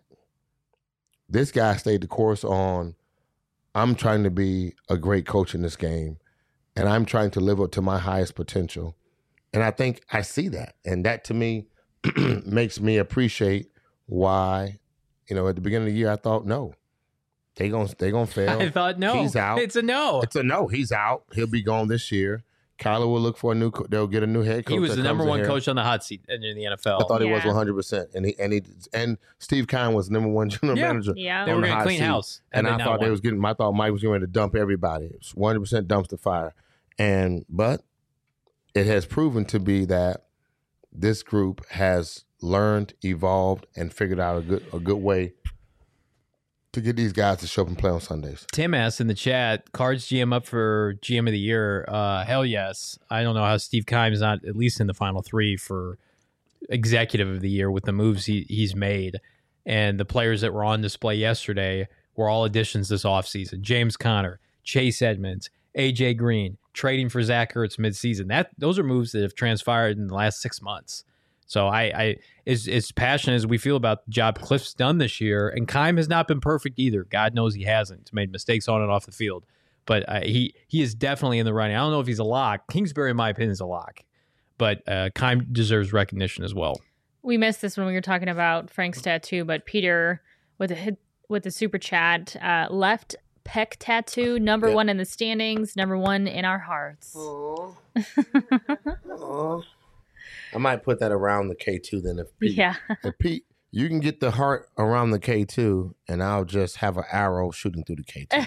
This guy stayed the course on, I'm trying to be a great coach in this game, and I'm trying to live up to my highest potential. And I think I see that. And that, to me, makes me appreciate why, at the beginning of the year, I thought, no, they're gonna fail. I thought, no. He's out. It's a no. It's a no. He's out. He'll be gone this year. Kyler will look for they'll get a new head coach. He was the number one coach on the hot seat in the NFL. I thought he was 100%. And Steve Keim was number one general manager. Yeah. They were going to clean house. And I thought I thought Mike was going to dump everybody. It was 100% dumpster fire. But it has proven to be that this group has learned, evolved, and figured out a good way to get these guys to show up and play on Sundays. Tim asked in the chat, Cards GM up for GM of the year? Hell yes. I don't know how Steve Keim's not at least in the final three for executive of the year with the moves he's made. And the players that were on display yesterday were all additions this offseason. James Conner, Chase Edmonds, A.J. Green, trading for Zach Ertz midseason. Those are moves that have transpired in the last 6 months. So I as passionate as we feel about the job Cliff's done this year, and Keim has not been perfect either. God knows he hasn't. He's made mistakes on and off the field. But he is definitely in the running. I don't know if he's a lock. Kingsbury, in my opinion, is a lock. But Keim deserves recognition as well. We missed this when we were talking about Frank's tattoo, but Peter with the super chat, left pec tattoo, number one in the standings, number one in our hearts. Aww. I might put that around the K2 then. If Pete, you can get the heart around the K2, and I'll just have an arrow shooting through the K2.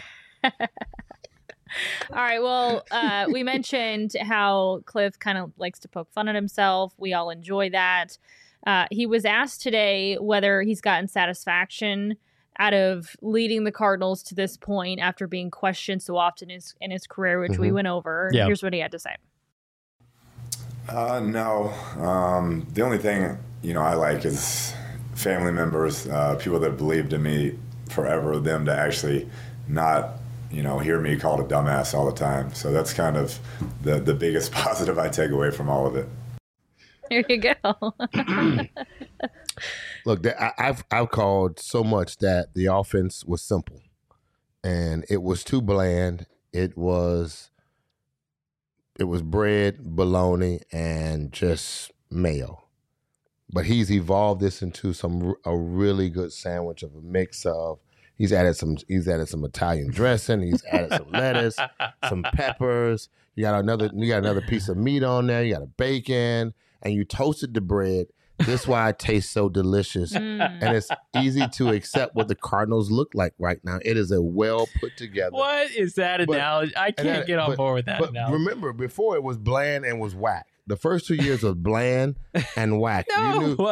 All right. Well, we mentioned how Cliff kind of likes to poke fun at himself. We all enjoy that. He was asked today whether he's gotten satisfaction out of leading the Cardinals to this point after being questioned so often in his career, which we went over. Yeah. Here's what he had to say. No. The only thing, I like is family members, people that believed in me forever, them to actually not, hear me called a dumbass all the time. So that's kind of the biggest positive I take away from all of it. There you go. Look, I've called so much that the offense was simple, and it was too bland. It was bread, bologna, and just mayo. But he's evolved this into a really good sandwich of a mix of. He's added some Italian dressing. He's added some lettuce, some peppers. You got another piece of meat on there. You got a bacon, and you toasted the bread. This is why it tastes so delicious, and it's easy to accept what the Cardinals look like right now. It is a well put together. What is that analogy? I can't get on board with that analogy. Remember, before it was bland and was whack. The first 2 years was bland and whack. No. You knew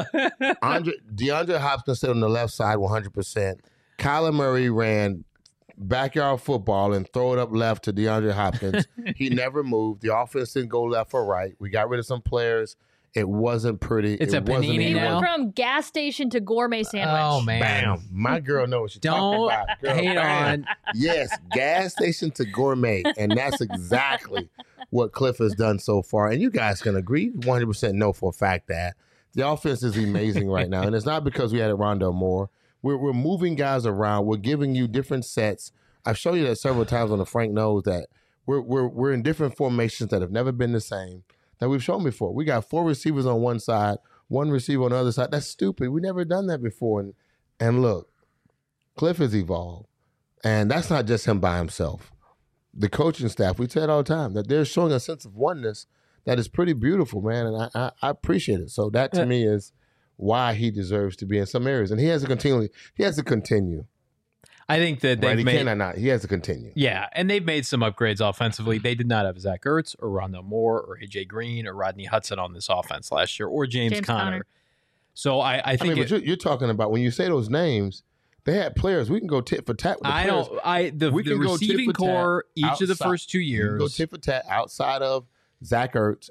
DeAndre Hopkins stayed on the left side 100%. Kyler Murray ran backyard football and throw it up left to DeAndre Hopkins. He never moved. The offense didn't go left or right. We got rid of some players. It wasn't pretty. It's a panini now. From gas station to gourmet sandwich. Oh, man. Bam. My girl knows what she's talking about. Girl, hate on. Yes, gas station to gourmet. And that's exactly what Cliff has done so far. And you guys can agree 100% know for a fact that the offense is amazing right now. And it's not because we added Rondale Moore. We're moving guys around. We're giving you different sets. I've shown you that several times on the Frank Knows that we're in different formations that have never been the same that we've shown before. We got 4 receivers on one side, 1 receiver on the other side. That's stupid. We never done that before. And look, Cliff has evolved. And that's not just him by himself. The coaching staff, we say it all the time, that they're showing a sense of oneness that is pretty beautiful, man. And I appreciate it. So that to me is why he deserves to be in some areas. And he has to continue. I think that they've he has to continue. Yeah, and they've made some upgrades offensively. They did not have Zach Ertz or Rondale Moore or AJ Green or Rodney Hudson on this offense last year, or James Conner. So I think but you're talking about when you say those names, they had players. We can go tit for tat with the players. The receiving core each of the first 2 years. You can go tit for tat outside of Zach Ertz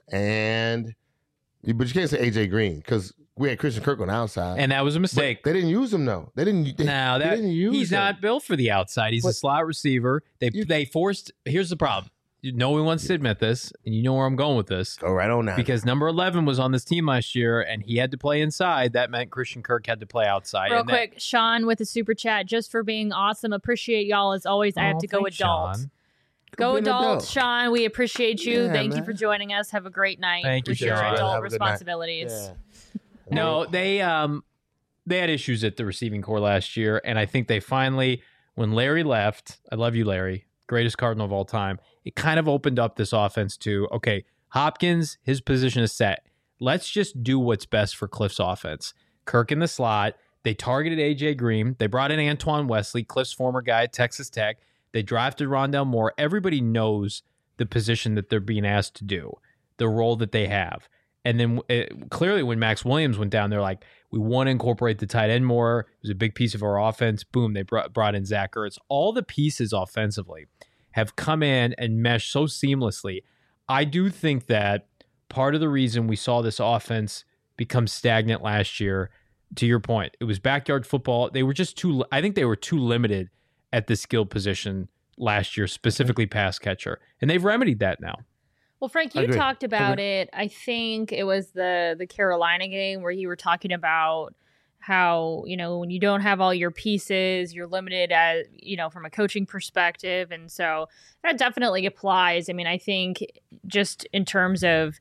but you can't say AJ Green because we had Christian Kirk on the outside. And that was a mistake. But they didn't use him, though. They didn't use he's him. not built for the outside. He's a slot receiver. They forced – here's the problem. No one wants to admit this, and you know where I'm going with this. Go right on now. Because number 11 was on this team last year, and he had to play inside. That meant Christian Kirk had to play outside. Real quick, Sean with the super chat, just for being awesome. Appreciate y'all as always. I have to go adult. Sean. Go adult, Sean. We appreciate you. Thank you for joining us. Have a great night. Thank you, with your Sean. adult responsibilities. Yeah. No, they had issues at the receiving core last year, and I think they finally, when Larry left, I love you, Larry, greatest Cardinal of all time, it kind of opened up this offense to, okay, Hopkins, his position is set. Let's just do what's best for Cliff's offense. Kirk in the slot. They targeted A.J. Green. They brought in Antoine Wesley, Cliff's former guy at Texas Tech. They drafted Rondale Moore. Everybody knows the position that they're being asked to do, the role that they have. And then clearly when Max Williams went down, they're like, we want to incorporate the tight end more. It was a big piece of our offense. Boom, they brought in Zach Ertz. All the pieces offensively have come in and meshed so seamlessly. I do think that part of the reason we saw this offense become stagnant last year, to your point, it was backyard football. They were just I think they were too limited at the skill position last year, specifically pass catcher. And they've remedied that now. Well, Frank, you talked about it. I think it was the Carolina game where you were talking about how, when you don't have all your pieces, you're limited as, from a coaching perspective. And so that definitely applies. I mean, I think just in terms of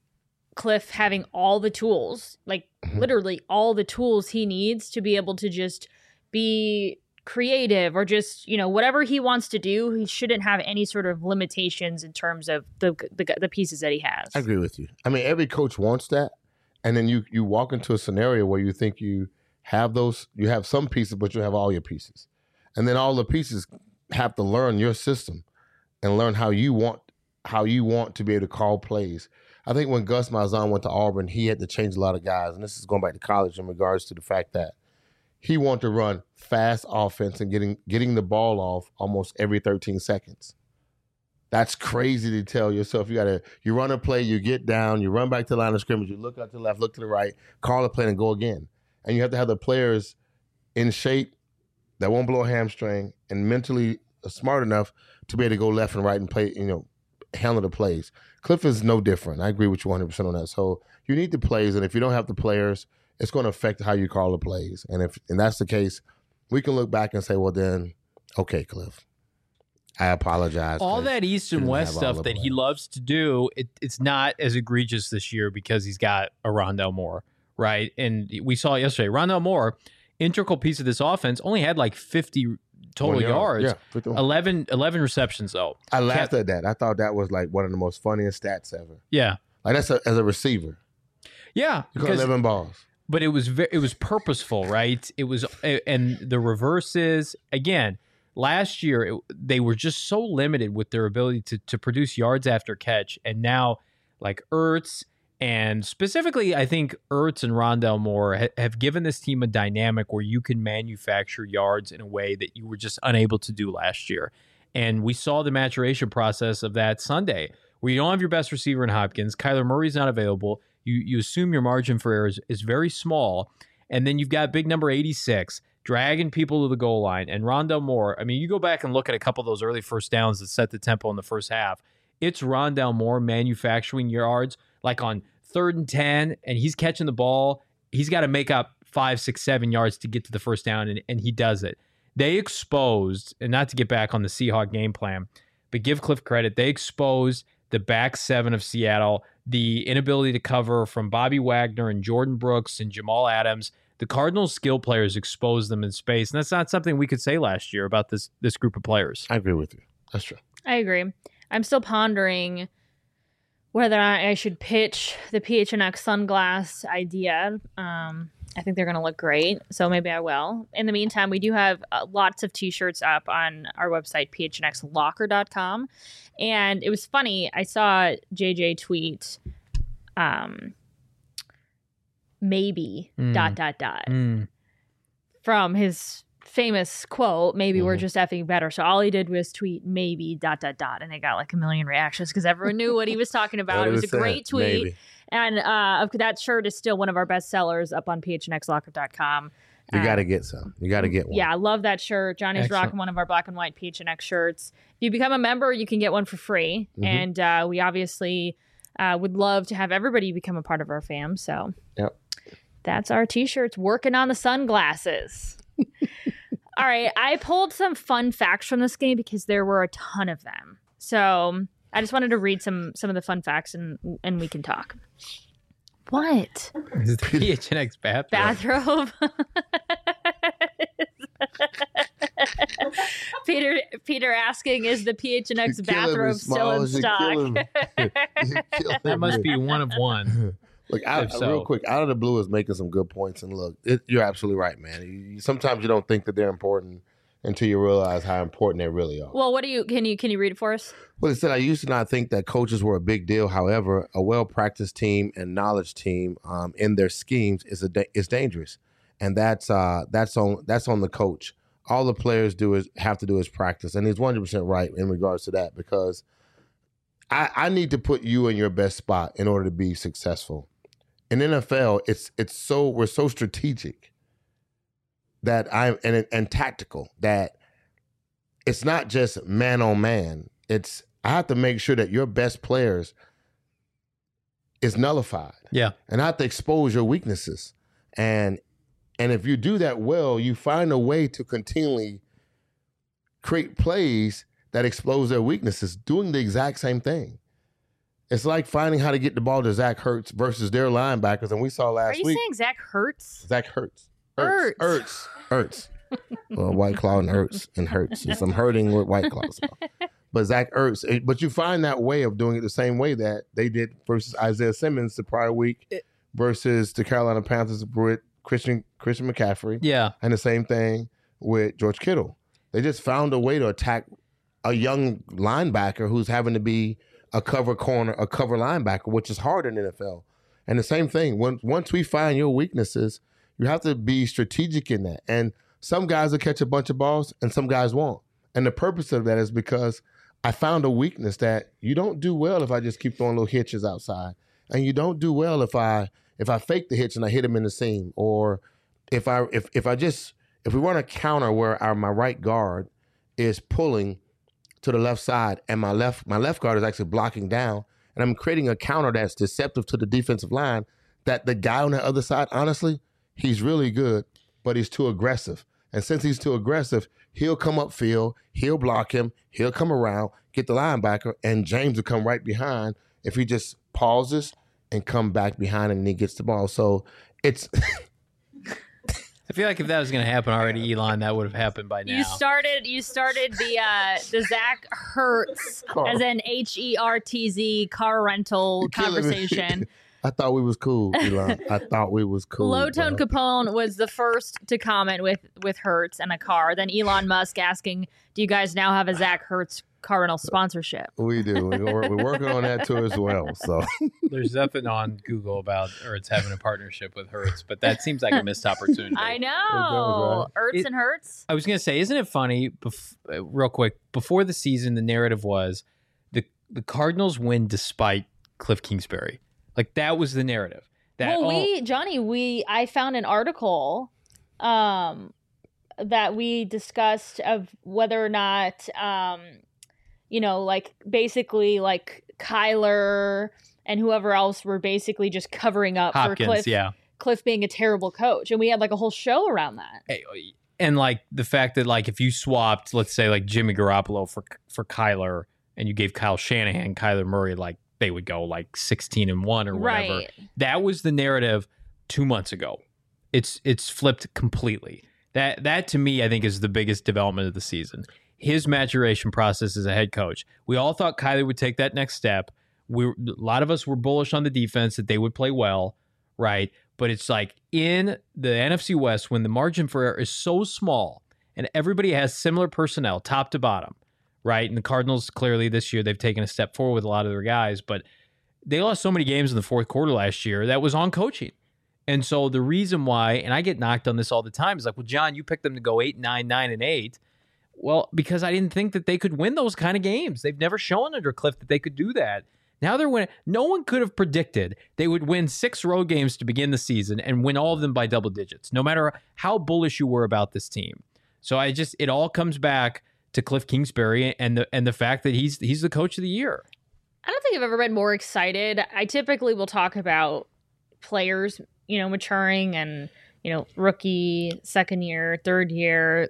Cliff having all the tools, like literally all the tools he needs to be able to just be creative or just, whatever he wants to do, he shouldn't have any sort of limitations in terms of the pieces that he has. I agree with you. I mean, every coach wants that. And then you walk into a scenario where you think you have some pieces, but you have all your pieces. And then all the pieces have to learn your system and learn how you want to be able to call plays. I think when Gus Malzahn went to Auburn, he had to change a lot of guys. And this is going back to college in regards to the fact that he wanted to run fast offense and getting the ball off almost every 13 seconds. That's crazy to tell yourself. You run a play, you get down, you run back to the line of scrimmage, you look out to the left, look to the right, call a play and go again. And you have to have the players in shape that won't blow a hamstring and mentally smart enough to be able to go left and right and play, handle the plays. Cliff is no different. I agree with you 100% on that. So you need the plays, and if you don't have the players, it's going to affect how you call the plays. And if that's the case, we can look back and say, well, then, okay, Cliff, I apologize. All that East and West stuff that he loves to do, it's not as egregious this year because he's got a Rondale Moore, right? And we saw yesterday, Rondale Moore, integral piece of this offense, only had like 50 total yards. Yeah, 11 receptions, though. I laughed at that. I thought that was like one of the most funniest stats ever. Yeah. Like that's as a receiver. Yeah. You got 11 balls. But it was purposeful, right? It was, and the reverses, again, last year, they were just so limited with their ability to produce yards after catch. And now, like Ertz, and specifically, I think Ertz and Rondale Moore have given this team a dynamic where you can manufacture yards in a way that you were just unable to do last year. And we saw the maturation process of that Sunday, where you don't have your best receiver in Hopkins. Kyler Murray's not available. You assume your margin for error is very small. And then you've got big number 86 dragging people to the goal line. And Rondale Moore, I mean, you go back and look at a couple of those early first downs that set the tempo in the first half. It's Rondale Moore manufacturing yards like on 3rd and 10, and he's catching the ball. He's got to make up 5, 6, 7 yards to get to the first down, and he does it. They exposed, and not to get back on the Seahawk game plan, but give Cliff credit, they exposed the back seven of Seattle, the inability to cover from Bobby Wagner and Jordan Brooks and Jamal Adams. The Cardinals' skill players exposed them in space, and that's not something we could say last year about this group of players. I agree with you. That's true. I agree. I'm still pondering whether or not I should pitch the PHNX sunglass idea. I think they're going to look great, so maybe I will. In the meantime, we do have lots of T-shirts up on our website, phnxlocker.com. And it was funny. I saw JJ tweet, maybe, ... from his famous quote, maybe we're just effing better. So all he did was tweet maybe ... and it got like 1 million reactions because everyone knew what he was talking about. It was a great tweet. Maybe. And that shirt is still one of our best sellers up on phnxlocker.com. You got to get some. You got to get one. Yeah, I love that shirt. Johnny's rocking one of our black and white PHNX shirts. If you become a member, you can get one for free. And we obviously would love to have everybody become a part of our fam. So that's our T-shirts. Working on the sunglasses. All right, I pulled some fun facts from this game because there were a ton of them. So I just wanted to read some of the fun facts and we can talk. What? Is the PHNX bathrobe? Peter asking, is the PHNX bathrobe still in stock? That must be one of one. Look, real quick, Out of the Blue is making some good points. And look, you're absolutely right, man. Sometimes you don't think that they're important until you realize how important they really are. Well, can you read it for us? Well, it said, I used to not think that coaches were a big deal. However, a well-practiced team and knowledge team in their schemes is dangerous. And that's on the coach. All the players have to do is practice. And he's 100% right in regards to that, because I need to put you in your best spot in order to be successful. In NFL, we're so strategic that and tactical that it's not just man on man. I have to make sure that your best players is nullified. Yeah. And I have to expose your weaknesses. And if you do that well, you find a way to continually create plays that expose their weaknesses, doing the exact same thing. It's like finding how to get the ball to Zach Ertz versus their linebackers. And we saw last week. Are you saying Zach Ertz? Zach Ertz. Ertz. Well, White Claw and Hurts. Yes, I'm hurting with White Claws. But Zach Ertz. But you find that way of doing it the same way that they did versus Isaiah Simmons the prior week versus the Carolina Panthers with Christian McCaffrey. Yeah. And the same thing with George Kittle. They just found a way to attack a young linebacker who's having to be a cover corner, a cover linebacker, which is hard in the NFL. And the same thing, once we find your weaknesses, you have to be strategic in that. And some guys will catch a bunch of balls and some guys won't. And the purpose of that is because I found a weakness that you don't do well if I just keep throwing little hitches outside. And you don't do well if I fake the hitch and I hit him in the seam. Or if we run a counter where my right guard is pulling to the left side and my left guard is actually blocking down, and I'm creating a counter that's deceptive to the defensive line, that the guy on the other side, honestly, he's really good, but he's too aggressive. And since he's too aggressive, he'll come upfield, he'll block him, he'll come around, get the linebacker, and James will come right behind if he just pauses and come back behind him and he gets the ball. So it's... I feel like if that was going to happen already, Elon, that would have happened by now. You started the Zach Ertz as an HERTZ car rental conversation. I thought we was cool, Elon. I thought we was cool. Low Tone Capone was the first to comment with Hertz and a car. Then Elon Musk asking, "Do you guys now have a Zach Ertz car rental sponsorship?" We do. We're working on that too as well. So there's nothing on Google about Ertz having a partnership with Hertz, but that seems like a missed opportunity. I know. Ertz and Hertz. I was going to say, isn't it funny? Real quick, before the season, the narrative was the Cardinals win despite Cliff Kingsbury. Like that was the narrative. I found an article that we discussed of whether or not, like basically like Kyler and whoever else were basically just covering up Hopkins, for Cliff being a terrible coach. And we had like a whole show around that. And like the fact that like if you swapped, let's say like Jimmy Garoppolo for Kyler and you gave Kyle Shanahan, Kyler Murray, like they would go like 16-1 or whatever. Right. That was the narrative 2 months ago. It's flipped completely. That to me, I think, is the biggest development of the season. His maturation process as a head coach. We all thought Kyler would take that next step. A lot of us were bullish on the defense that they would play well, right? But it's like in the NFC West, when the margin for error is so small and everybody has similar personnel, top to bottom, right? And the Cardinals, clearly this year, they've taken a step forward with a lot of their guys, but they lost so many games in the fourth quarter last year that was on coaching. And so the reason why, and I get knocked on this all the time, is like, well, John, you picked them to go 8-9, 9-8. Well, because I didn't think that they could win those kind of games. They've never shown under Cliff that they could do that. Now they're winning. No one could have predicted they would win 6 road games to begin the season and win all of them by double digits, no matter how bullish you were about this team. So it all comes back to Cliff Kingsbury and the fact that he's the coach of the year. I don't think I've ever been more excited. I typically will talk about players, maturing and, rookie, second year, third year,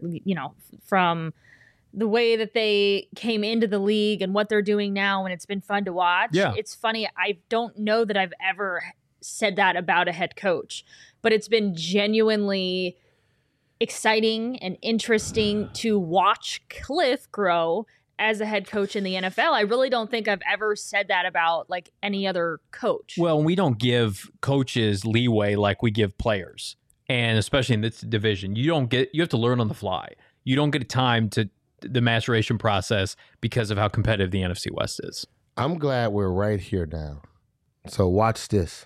from the way that they came into the league and what they're doing now, and it's been fun to watch. Yeah. It's funny. I don't know that I've ever said that about a head coach, but it's been genuinely exciting and interesting to watch Cliff grow as a head coach in the NFL. I really don't think I've ever said that about like any other coach. Well, we don't give coaches leeway like we give players. And especially in this division, you have to learn on the fly. You don't get time to the maturation process because of how competitive the NFC West is. I'm glad we're right here now. So watch this.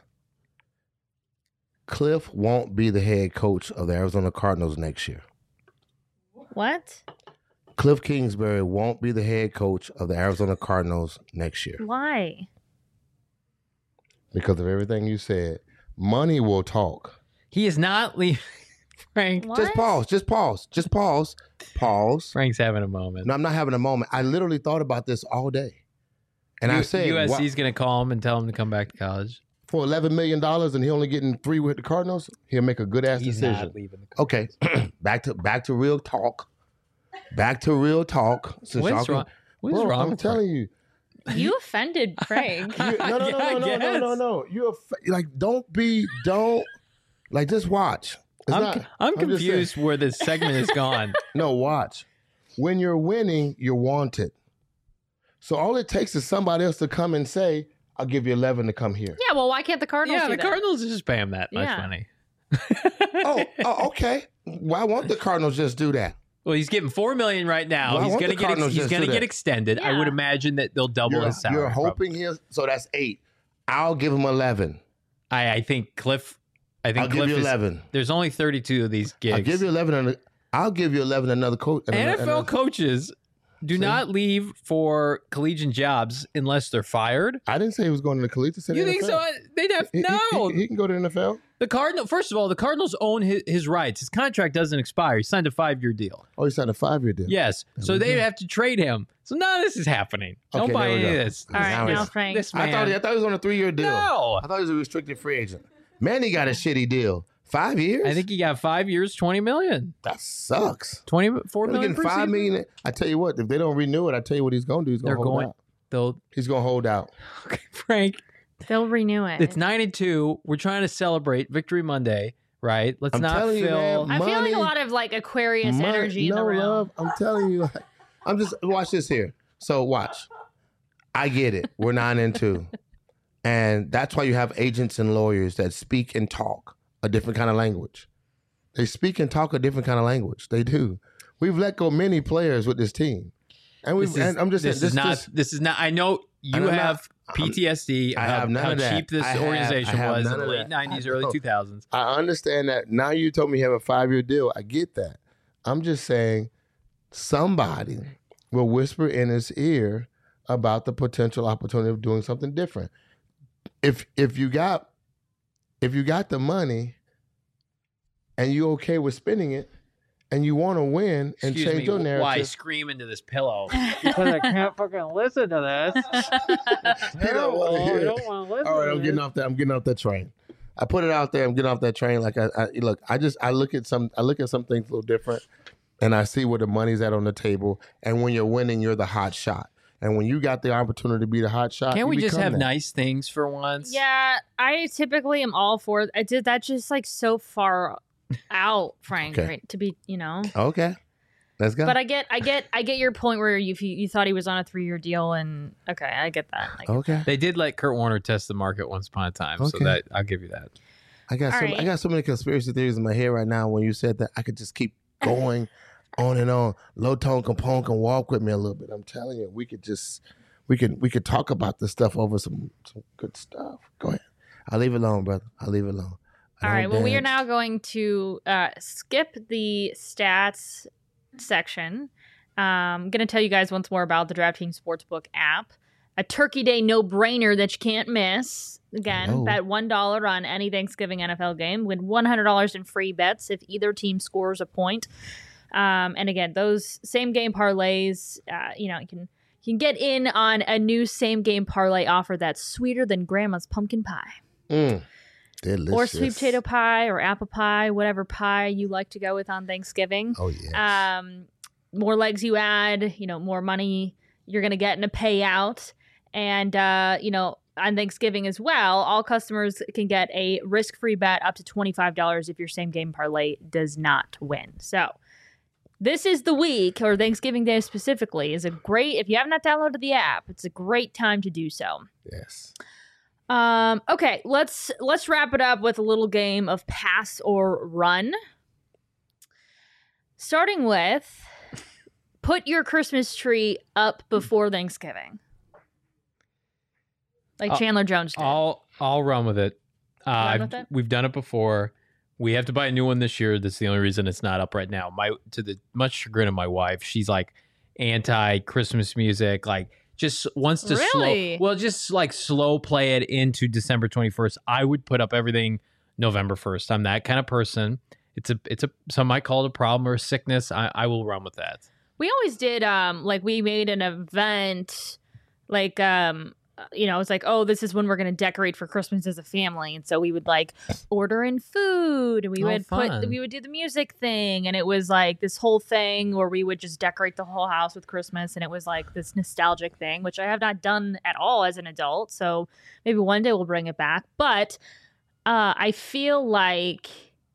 Cliff won't be the head coach of the Arizona Cardinals next year. What? Cliff Kingsbury won't be the head coach of the Arizona Cardinals next year. Why? Because of everything you said. Money will talk. He is not leaving. Frank. What? Just pause. Pause. Frank's having a moment. No, I'm not having a moment. I literally thought about this all day. And I said... USC's going to call him and tell him to come back to college. for $11 million and he only getting 3 with the Cardinals, he'll make a good ass decision. Not leaving the Cardinals. Okay, back to real talk. Back to real talk. What's wrong? What's wrong? I'm with telling you. You offended Frank. No. Don't just watch. I'm confused where this segment is gone. No, watch. When you're winning, you're wanted. So all it takes is somebody else to come and say, I'll give you 11 to come here. Yeah, well, why can't the Cardinals do that? Cardinals just pay him that much money. Okay. Why won't the Cardinals just do that? Well, he's getting $4 million right now. He's going to get extended. Yeah. I would imagine that they'll double his salary. You're hoping so that's 8. I'll give him 11. I think Cliff. I'll give you 11. There's only 32 of these gigs. I'll give you 11. I'll give you 11. Another coach. NFL coaches do not leave for collegiate jobs unless they're fired. I didn't say he was going to the collegiate. You think so? They'd have no. He can go to the NFL. First of all, the Cardinals own his rights. His contract doesn't expire. He signed a 5-year deal. Oh, he signed a 5-year deal. Yes. So they'd have to trade him. So none of this is happening. Don't buy any of this. All right, now Frank. This man. I thought he was on a 3-year deal. No. I thought he was a restricted free agent. Manny got a shitty deal. 5 years? I think he got 5 years, $20 million. That sucks. $4 million. Getting $5 million. I tell you what, if they don't renew it, I tell you what he's going to do. He's going to hold out. He's going to hold out. Okay, Frank. They'll renew it. It's 9-2. We're trying to celebrate Victory Monday, right? Let's not fill. I'm feeling a lot of Aquarius energy in the room. Love. I'm telling you. I'm just watch this here. So watch. I get it. We're 9-2, and that's why you have agents and lawyers that speak and talk a different kind of language. They speak and talk a different kind of language. They do. We've let go many players with this team, and I'm just saying this is not. I know you have PTSD. I have none of that. How cheap this organization was in the late 90s, early 2000s. I understand that. Now you told me you have a 5-year deal. I get that. I'm just saying somebody will whisper in his ear about the potential opportunity of doing something different. If you got the money and you're okay with spending it and you want to win and change your narrative. Why scream into this pillow? Because I can't fucking listen to this. I don't want to listen. All right, I'm getting off that train. I put it out there. I'm getting off that train. Like I look at some things a little different, and I see where the money's at on the table. And when you're winning, you're the hot shot. And when you got the opportunity to be the hot shot, can't we just have nice things for once? Yeah, I typically am all for it. I did that just so far out, Frank, okay. Right, to be, Okay. Let's go. But I get your point where you thought he was on a 3-year deal, and okay, I get that. Okay. They did let Kurt Warner test the market once upon a time, so that I'll give you that. I got so many conspiracy theories in my head right now. When you said that, I could just keep going on and on. Low Tone Capone can walk with me a little bit. I'm telling you, we could talk about this stuff over some good stuff. Go ahead. I'll leave it alone, brother. I'll leave it alone. All right. Well, we are now going to skip the stats section. I'm going to tell you guys once more about the DraftKings Sportsbook app. A Turkey Day no-brainer that you can't miss. Again, bet $1 on any Thanksgiving NFL game. Win $100 in free bets if either team scores a point. And again, those same-game parlays, you can get in on a new same-game parlay offer that's sweeter than Grandma's pumpkin pie. Delicious. Or sweet potato pie or apple pie, whatever pie you like to go with on Thanksgiving. Oh, yes. More legs you add, more money you're going to get in a payout. And, on Thanksgiving as well, all customers can get a risk-free bet up to $25 if your same-game parlay does not win. So this is the week, or Thanksgiving Day specifically, if you have not downloaded the app, it's a great time to do so. Yes. Okay, let's wrap it up with a little game of pass or run. Starting with, put your Christmas tree up before Thanksgiving. Like Chandler Jones did. I'll run with it. With it? We've done it before. We have to buy a new one this year. That's the only reason it's not up right now. To the much chagrin of my wife, she's like anti-Christmas music, like just wants to slow play it into December 21st. I would put up everything November 1st. I'm that kind of person. It's a some might call it a problem or a sickness. I will run with that. We always did we made an event it's like, oh, this is when we're going to decorate for Christmas as a family. And so we would like order in food and we would do the music thing. And it was like this whole thing where we would just decorate the whole house with Christmas. And it was like this nostalgic thing, which I have not done at all as an adult. So maybe one day we'll bring it back. But I feel like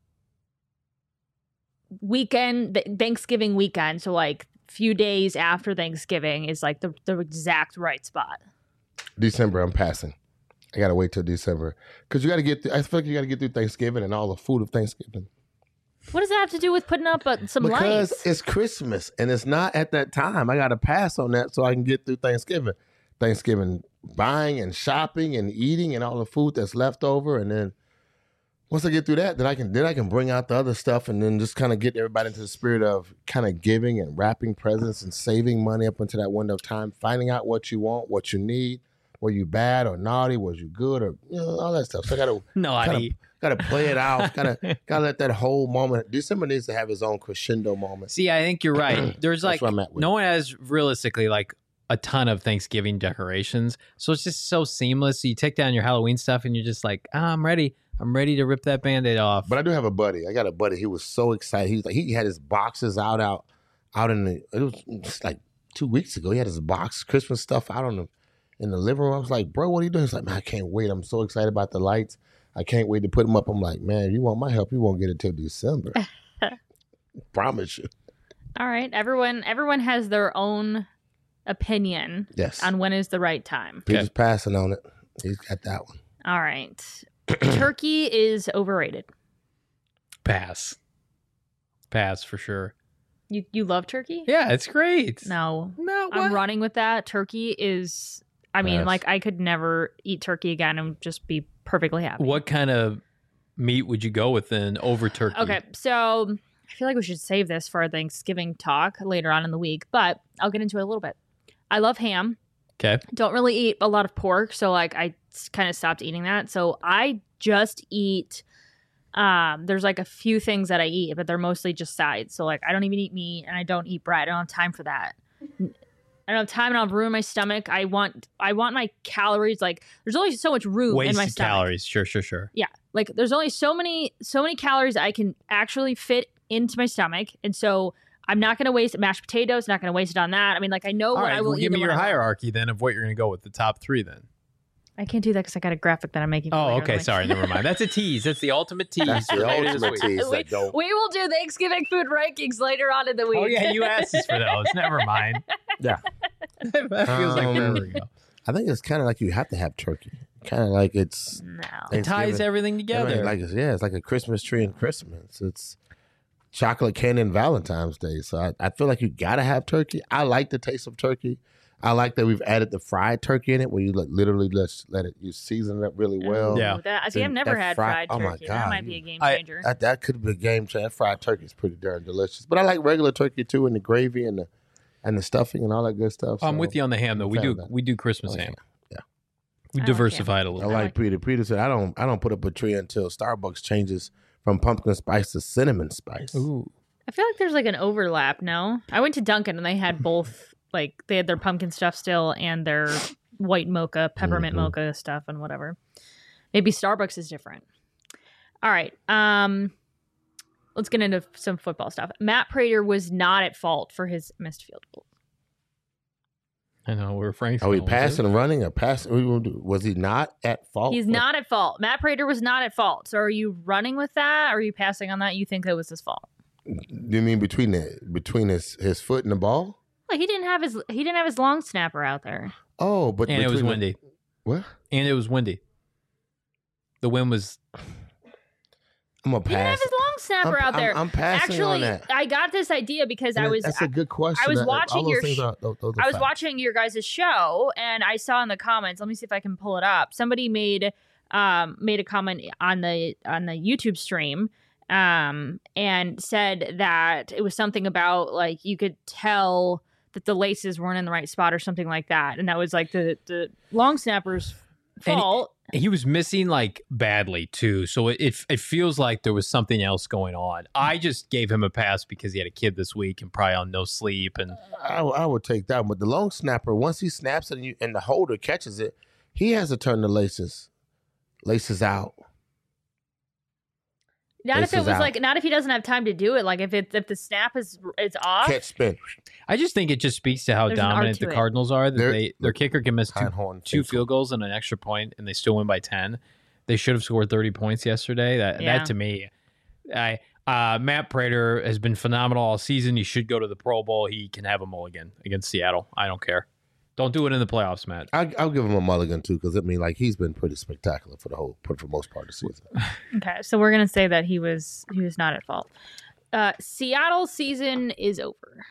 Thanksgiving weekend. So like few days after Thanksgiving is like the exact right spot. December, I'm passing. I gotta wait till December because you gotta get. I feel like you gotta get through Thanksgiving and all the food of Thanksgiving. What does that have to do with putting up some lights? Because it's Christmas and it's not at that time. I gotta pass on that so I can get through Thanksgiving. Thanksgiving buying and shopping and eating and all the food that's left over, and then once I get through that, then I can bring out the other stuff and then just kind of get everybody into the spirit of kind of giving and wrapping presents and saving money up until that window of time, finding out what you want, what you need. Were you bad or naughty? Was you good or all that stuff? So I gotta play it out. Gotta let that whole moment. December needs to have its own crescendo moment. See, I think you're right. There's like no one has realistically like a ton of Thanksgiving decorations, so it's just so seamless. So you take down your Halloween stuff and you're just like, I'm ready. I'm ready to rip that Band-Aid off. But I do have a buddy. I got a buddy. He was so excited. He had his boxes out in the. It was just like 2 weeks ago. He had his box Christmas stuff out in the living room. I was like, bro, what are you doing? He's like, man, I can't wait. I'm so excited about the lights. I can't wait to put them up. I'm like, man, if you want my help, you won't get it till December. Promise you. All right. Everyone has their own opinion on when is the right time. Peter's passing on it. He's got that one. All right. Turkey is overrated. Pass for sure. You love turkey? Yeah, it's great. No, I'm running with that. Turkey is, I mean, like I could never eat turkey again and just be perfectly happy. What kind of meat would you go with then over turkey? Okay, so I feel like we should save this for our Thanksgiving talk later on in the week, but I'll get into it a little bit. I love ham. Okay. Don't really eat a lot of pork, so like I kind of stopped eating that. So I just eat. There's like a few things that I eat, but they're mostly just sides. So like I don't even eat meat and I don't eat bread. I don't have time for that. I don't have time and I'll ruin my stomach. I want my calories. Like there's only so much room in my stomach. Calories. Sure. Yeah. Like there's only so many calories I can actually fit into my stomach. And so I'm not going to waste mashed potatoes. Not going to waste it on that. I mean, like I know what I will eat. Give me your hierarchy then of what you're going to go with the top three then. I can't do that because I got a graphic that I'm making. Oh, okay. Sorry. Never mind. That's a tease. That's the ultimate tease. That's the ultimate tease. We will do Thanksgiving food rankings later on in the week. Oh, yeah. You asked us for those. Never mind. Yeah. That feels like forever ago. I think it's kind of like you have to have turkey. Kind of like it's. No. It ties everything together. It's like a Christmas tree and Christmas. It's chocolate candy and Valentine's Day. So I feel like you got to have turkey. I like the taste of turkey. I like that we've added the fried turkey in it, where you literally just let it, you season it up really well. Yeah. I've never had fried turkey. Oh my God. That might be a game changer. That could be a game changer. Fried turkey is pretty darn delicious. But I like regular turkey too, and the gravy and the stuffing and all that good stuff. I'm with you on the ham though. We do Christmas ham. Yeah. We diversified a little. I like Peter. Peter said I don't put up a tree until Starbucks changes from pumpkin spice to cinnamon spice. Ooh. I feel like there's like an overlap. No, I went to Dunkin' and they had both. Like they had their pumpkin stuff still and their white mocha, peppermint mocha stuff and whatever. Maybe Starbucks is different. All right. Let's get into some football stuff. Matt Prater was not at fault for his missed field goal. I know we're frank. Are we passing and running or passing? Was he not at fault? He's not at fault. Matt Prater was not at fault. So are you running with that? Or are you passing on that? You think that was his fault? You mean between his foot and the ball? He didn't have his long snapper out there. Oh, but it was windy. What? And it was windy. The wind was. I'm gonna pass. He didn't have his long snapper out there. I'm passing on that. I got this idea because That's a good question. I was watching watching your guys' show, and I saw in the comments. Let me see if I can pull it up. Somebody made a comment on the YouTube stream. And said that it was something about like you could tell that the laces weren't in the right spot or something like that, and that was like the long snapper's fault. He was missing like badly too, so it feels like there was something else going on. I just gave him a pass because he had a kid this week and probably on no sleep. And I would take that, but the long snapper, once he snaps it and the holder catches it, he has to turn the laces out. Not if it was not if he doesn't have time to do it. Like if the snap is off. Catch spin. I just think it just speaks to how dominant the Cardinals are. That their kicker can miss two field goals and an extra point, and they still win by 10. They should have scored 30 points yesterday. That to me, Matt Prater has been phenomenal all season. He should go to the Pro Bowl. He can have a mulligan against Seattle. I don't care. Don't do it in the playoffs, Matt. I'll give him a mulligan too, because he's been pretty spectacular for the most part of the season. Okay, so we're gonna say that he was not at fault. Seattle's season is over.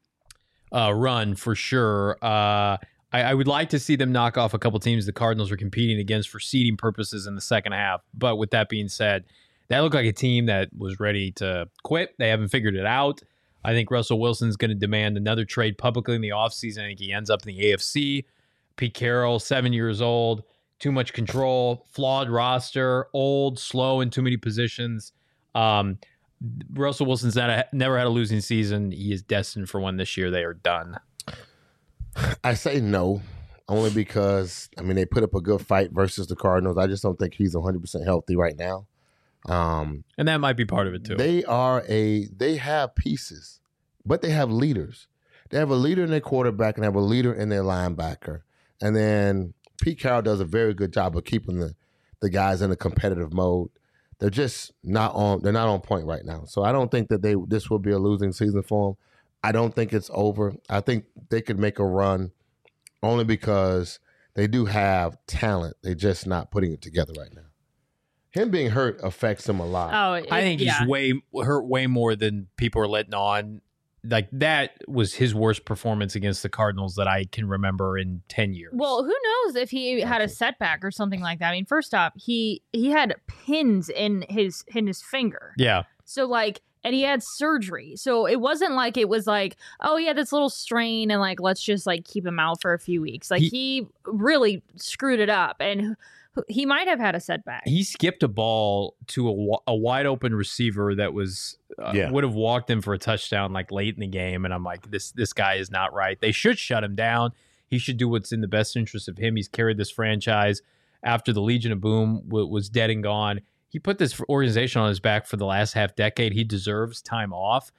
Run for sure. I would like to see them knock off a couple teams the Cardinals are competing against for seeding purposes in the second half. But with that being said, that looked like a team that was ready to quit. They haven't figured it out. I think Russell Wilson's going to demand another trade publicly in the offseason. I think he ends up in the AFC. Pete Carroll, 7 years old, too much control, flawed roster, old, slow in too many positions. Russell Wilson's never had a losing season. He is destined for one this year. They are done. I say no, only because, they put up a good fight versus the Cardinals. I just don't think he's 100% healthy right now. And that might be part of it too. They have pieces, but they have leaders. They have a leader in their quarterback and have a leader in their linebacker. And then Pete Carroll does a very good job of keeping the guys in a competitive mode. They're just not on point right now. So I don't think that this will be a losing season for them. I don't think it's over. I think they could make a run only because they do have talent. They're just not putting it together right now. Him being hurt affects him a lot. I think he's hurt way more than people are letting on. Like, that was his worst performance against the Cardinals that I can remember in 10 years. Well, who knows if he had a setback or something like that. First off, he had pins in his finger. Yeah. So and he had surgery. So it wasn't like it was like, oh, he had this little strain and let's just keep him out for a few weeks. He really screwed it up, and he might have had a setback. He skipped a ball to a wide open receiver that was would have walked in for a touchdown late in the game, and I'm like, this guy is not right. They should shut him down. He should do what's in the best interest of him. He's carried this franchise after the Legion of Boom was dead and gone. He put this organization on his back for the last half decade. He deserves time off.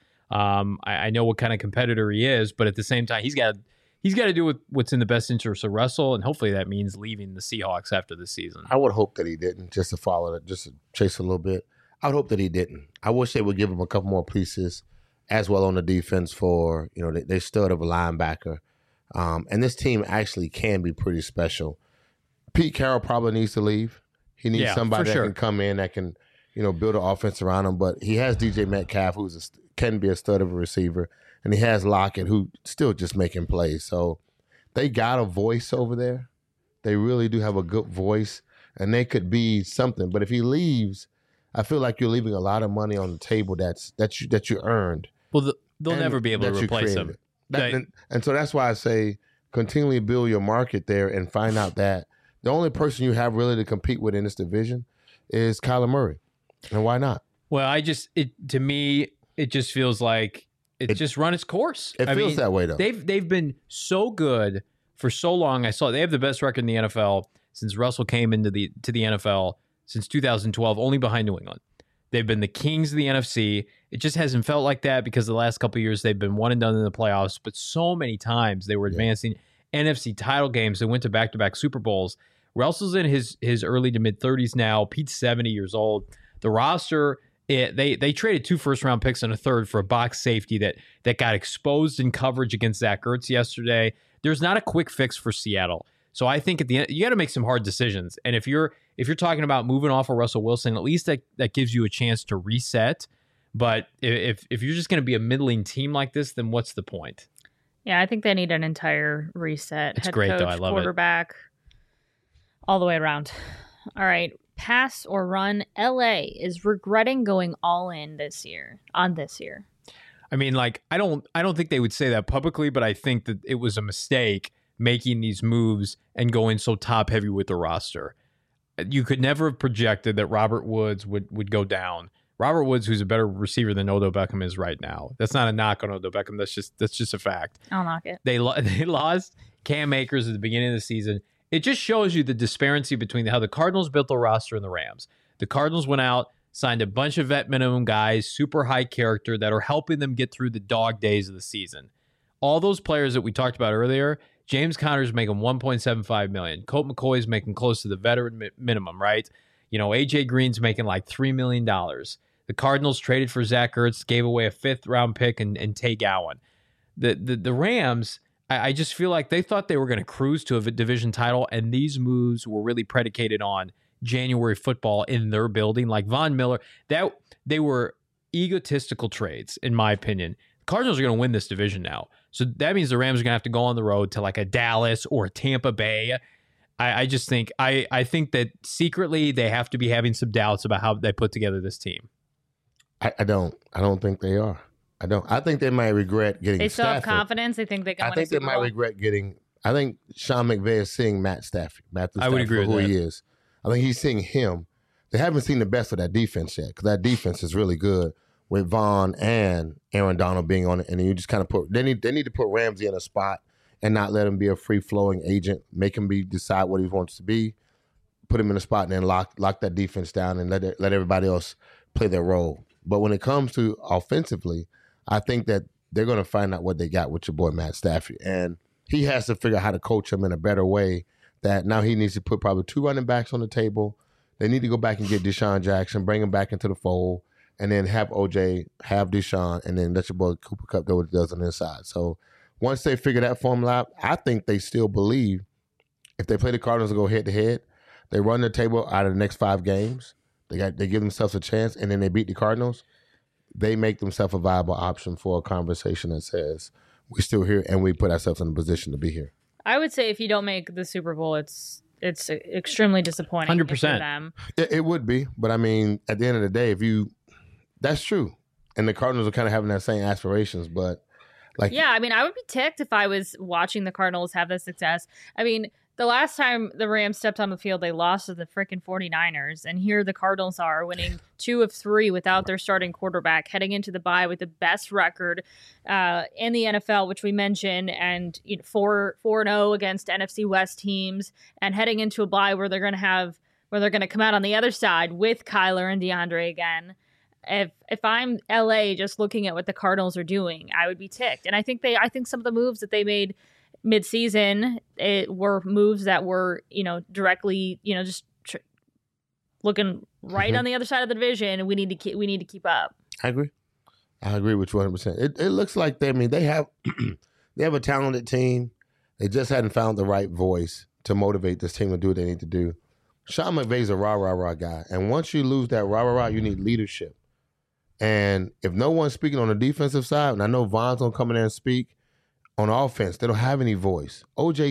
I know what kind of competitor he is, but at the same time, he's got to do what's in the best interest of Russell, and hopefully that means leaving the Seahawks after the season. I would hope that he didn't, just to follow it, just to chase a little bit. I would hope that he didn't. I wish they would give him a couple more pieces as well on the defense for, they stud of a linebacker. And this team actually can be pretty special. Pete Carroll probably needs to leave. He needs somebody that can come in that can, build an offense around him. But he has DJ Metcalf, who can be a stud of a receiver. And he has Lockett, who still just making plays. So they got a voice over there. They really do have a good voice, and they could be something. But if he leaves, I feel like you're leaving a lot of money on the table that you earned. Well, they'll never be able to replace him. And so that's why I say continually build your market there and find out that the only person you have really to compete with in this division is Kyler Murray. And why not? Well, to me, it just feels like it just run its course. It feels that way, though. They've been so good for so long. I saw they have the best record in the NFL since Russell came into the NFL since 2012, only behind New England. They've been the kings of the NFC. It just hasn't felt like that because the last couple of years they've been one and done in the playoffs, but so many times they were advancing NFC title games. They went to back-to-back Super Bowls. Russell's in his early to mid-30s now. Pete's 70 years old. The roster, they traded 2 first-round picks and a third for a box safety that got exposed in coverage against Zach Ertz yesterday. There's not a quick fix for Seattle. So I think at the end, you got to make some hard decisions. And if you're talking about moving off of Russell Wilson, at least that gives you a chance to reset. But if you're just going to be a middling team like this, then what's the point? Yeah, I think they need an entire reset. It's Head great, coach, though. I love quarterback, all the way around. All right, pass or run. LA is regretting going all in this year. I don't think they would say that publicly, but I think that it was a mistake making these moves and going so top heavy with the roster. You could never have projected that Robert Woods would go down. Robert Woods, who's a better receiver than Odell Beckham is right now. That's not a knock on Odell Beckham. That's just a fact. I'll knock it. They lost Cam Akers at the beginning of the season, it just shows you the disparity between how the Cardinals built the roster and the Rams. The Cardinals went out, signed a bunch of vet minimum guys, super high character that are helping them get through the dog days of the season. All those players that we talked about earlier, James Conner's making $1.75 million. Colt McCoy's making close to the veteran minimum, right? AJ Green's making like $3 million. The Cardinals traded for Zach Ertz, gave away a 5th-round pick and Tay Gowan. The Rams, I just feel like they thought they were going to cruise to a division title, and these moves were really predicated on January football in their building. Like Von Miller, they were egotistical trades, in my opinion. Cardinals are going to win this division now. So that means the Rams are going to have to go on the road to like a Dallas or a Tampa Bay. I just think I think that secretly they have to be having some doubts about how they put together this team. I don't think they are. I don't. I think they might regret getting. They still Stafford. have confidence. They think they can. I think they might regret getting. I think Sean McVay is seeing Matthew Stafford I would agree for who with that. he is. I think he's seeing him. They haven't seen the best of that defense yet because that defense is really good with Vaughn and Aaron Donald being on it, and then you just kind of put. They need to put Ramsey in a spot and not let him be a free flowing agent. Make him decide what he wants to be. Put him in a spot and then lock that defense down and let everybody else play their role. But when it comes to offensively, I think that they're going to find out what they got with your boy Matt Stafford. And he has to figure out how to coach him in a better way, that now he needs to put probably 2 running backs on the table. They need to go back and get Deshaun Jackson, bring him back into the fold, and then have OJ, have Deshaun, and then let your boy Cooper Kupp do what he does on the inside. So once they figure that formula out, I think they still believe if they play the Cardinals and go head-to-head, they run the table out of the next 5 games, they give themselves a chance, and then they beat the Cardinals, they make themselves a viable option for a conversation that says, we're still here and we put ourselves in a position to be here. I would say if you don't make the Super Bowl, it's extremely disappointing. 100%. For them. It would be, but I mean, at the end of the day, that's true. And the Cardinals are kind of having that same aspirations, but yeah, I mean, I would be ticked if I was watching the Cardinals have this success. I mean, the last time the Rams stepped on the field, they lost to the freaking 49ers. And here the Cardinals are winning 2 of 3 without their starting quarterback, heading into the bye with the best record in the NFL, which we mentioned, and 4-0 against NFC West teams, and heading into a bye where they're going to come out on the other side with Kyler and DeAndre again. If I'm LA just looking at what the Cardinals are doing, I would be ticked. And I think some of the moves that they made mid-season, it were moves that were, directly, just looking right on the other side of the division, and we need to keep up. I agree with you 100%. It looks like they have they have a talented team. They just hadn't found the right voice to motivate this team to do what they need to do. Sean McVay's a rah guy, and once you lose that rah, you need leadership. And if no one's speaking on the defensive side, and I know Von's gonna come in there and speak, on offense, they don't have any voice.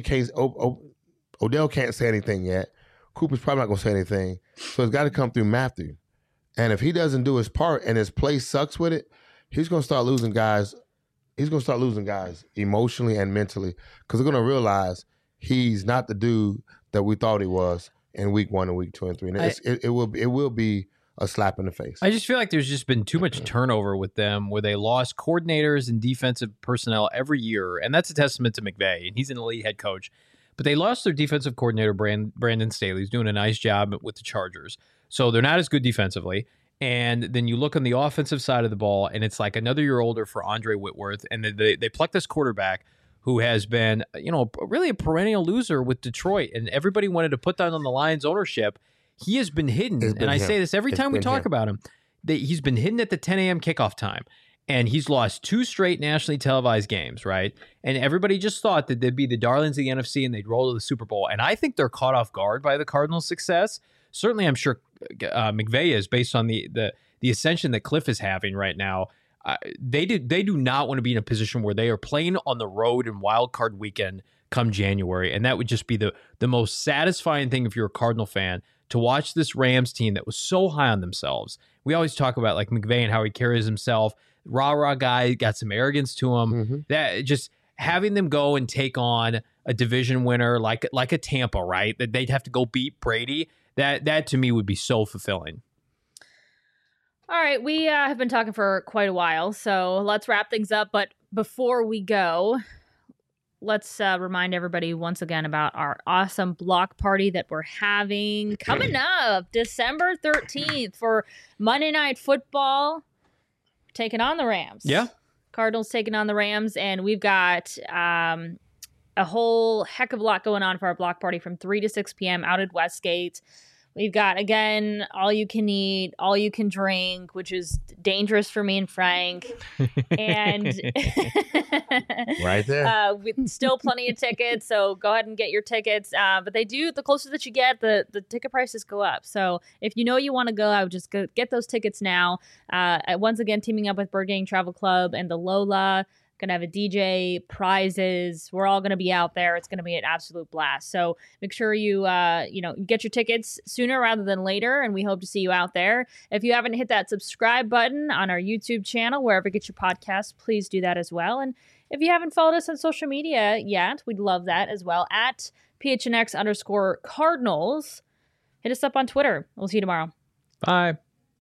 Odell can't say anything yet. Cooper's probably not going to say anything. So it's got to come through Matthew. And if he doesn't do his part and his play sucks with it, he's going to start losing guys. He's going to start losing guys emotionally and mentally because they're going to realize he's not the dude that we thought he was in week 1 and week 2 and 3. And it will be a slap in the face. I just feel like there's just been too much turnover with them where they lost coordinators and defensive personnel every year. And that's a testament to McVay. And he's an elite head coach. But they lost their defensive coordinator, Brandon Staley. He's doing a nice job with the Chargers. So they're not as good defensively. And then you look on the offensive side of the ball, and it's like another year older for Andre Whitworth. And they pluck this quarterback who has been, really a perennial loser with Detroit. And everybody wanted to put that on the Lions ownership. He has been hidden, and I say this every time we talk about him, that he's been hidden at the 10 a.m. kickoff time, and he's lost 2 straight nationally televised games, right? And everybody just thought that they'd be the darlings of the NFC and they'd roll to the Super Bowl, and I think they're caught off guard by the Cardinals' success. Certainly, I'm sure McVay is, based on the ascension that Cliff is having right now. They do not want to be in a position where they are playing on the road in wild card weekend come January, and that would just be the most satisfying thing if you're a Cardinal fan, to watch this Rams team that was so high on themselves. We always talk about like McVay and how he carries himself. Rah guy, got some arrogance to him. Mm-hmm. That just having them go and take on a division winner like a Tampa, right? That they'd have to go beat Brady. That to me would be so fulfilling. All right, we have been talking for quite a while, so let's wrap things up. But before we go, let's remind everybody once again about our awesome block party that we're having coming up December 13th for Monday Night Football, taking on the Rams. Yeah. Cardinals taking on the Rams, and we've got a whole heck of a lot going on for our block party from 3 to 6 p.m. out at Westgate. We've got, again, all you can eat, all you can drink, which is dangerous for me and Frank. And right there. With still plenty of tickets, so go ahead and get your tickets. But they do, the closer that you get, the ticket prices go up. So if you know you want to go, I would just go get those tickets now. Once again, teaming up with Bird Gang Travel Club and the Lola. Going to have a DJ, prizes. We're all going to be out there. It's going to be an absolute blast. So make sure you get your tickets sooner rather than later, and we hope to see you out there. If you haven't hit that subscribe button on our YouTube channel, wherever you get your podcasts, please do that as well. And if you haven't followed us on social media yet, we'd love that as well. At PHNX_Cardinals. Hit us up on Twitter. We'll see you tomorrow. Bye.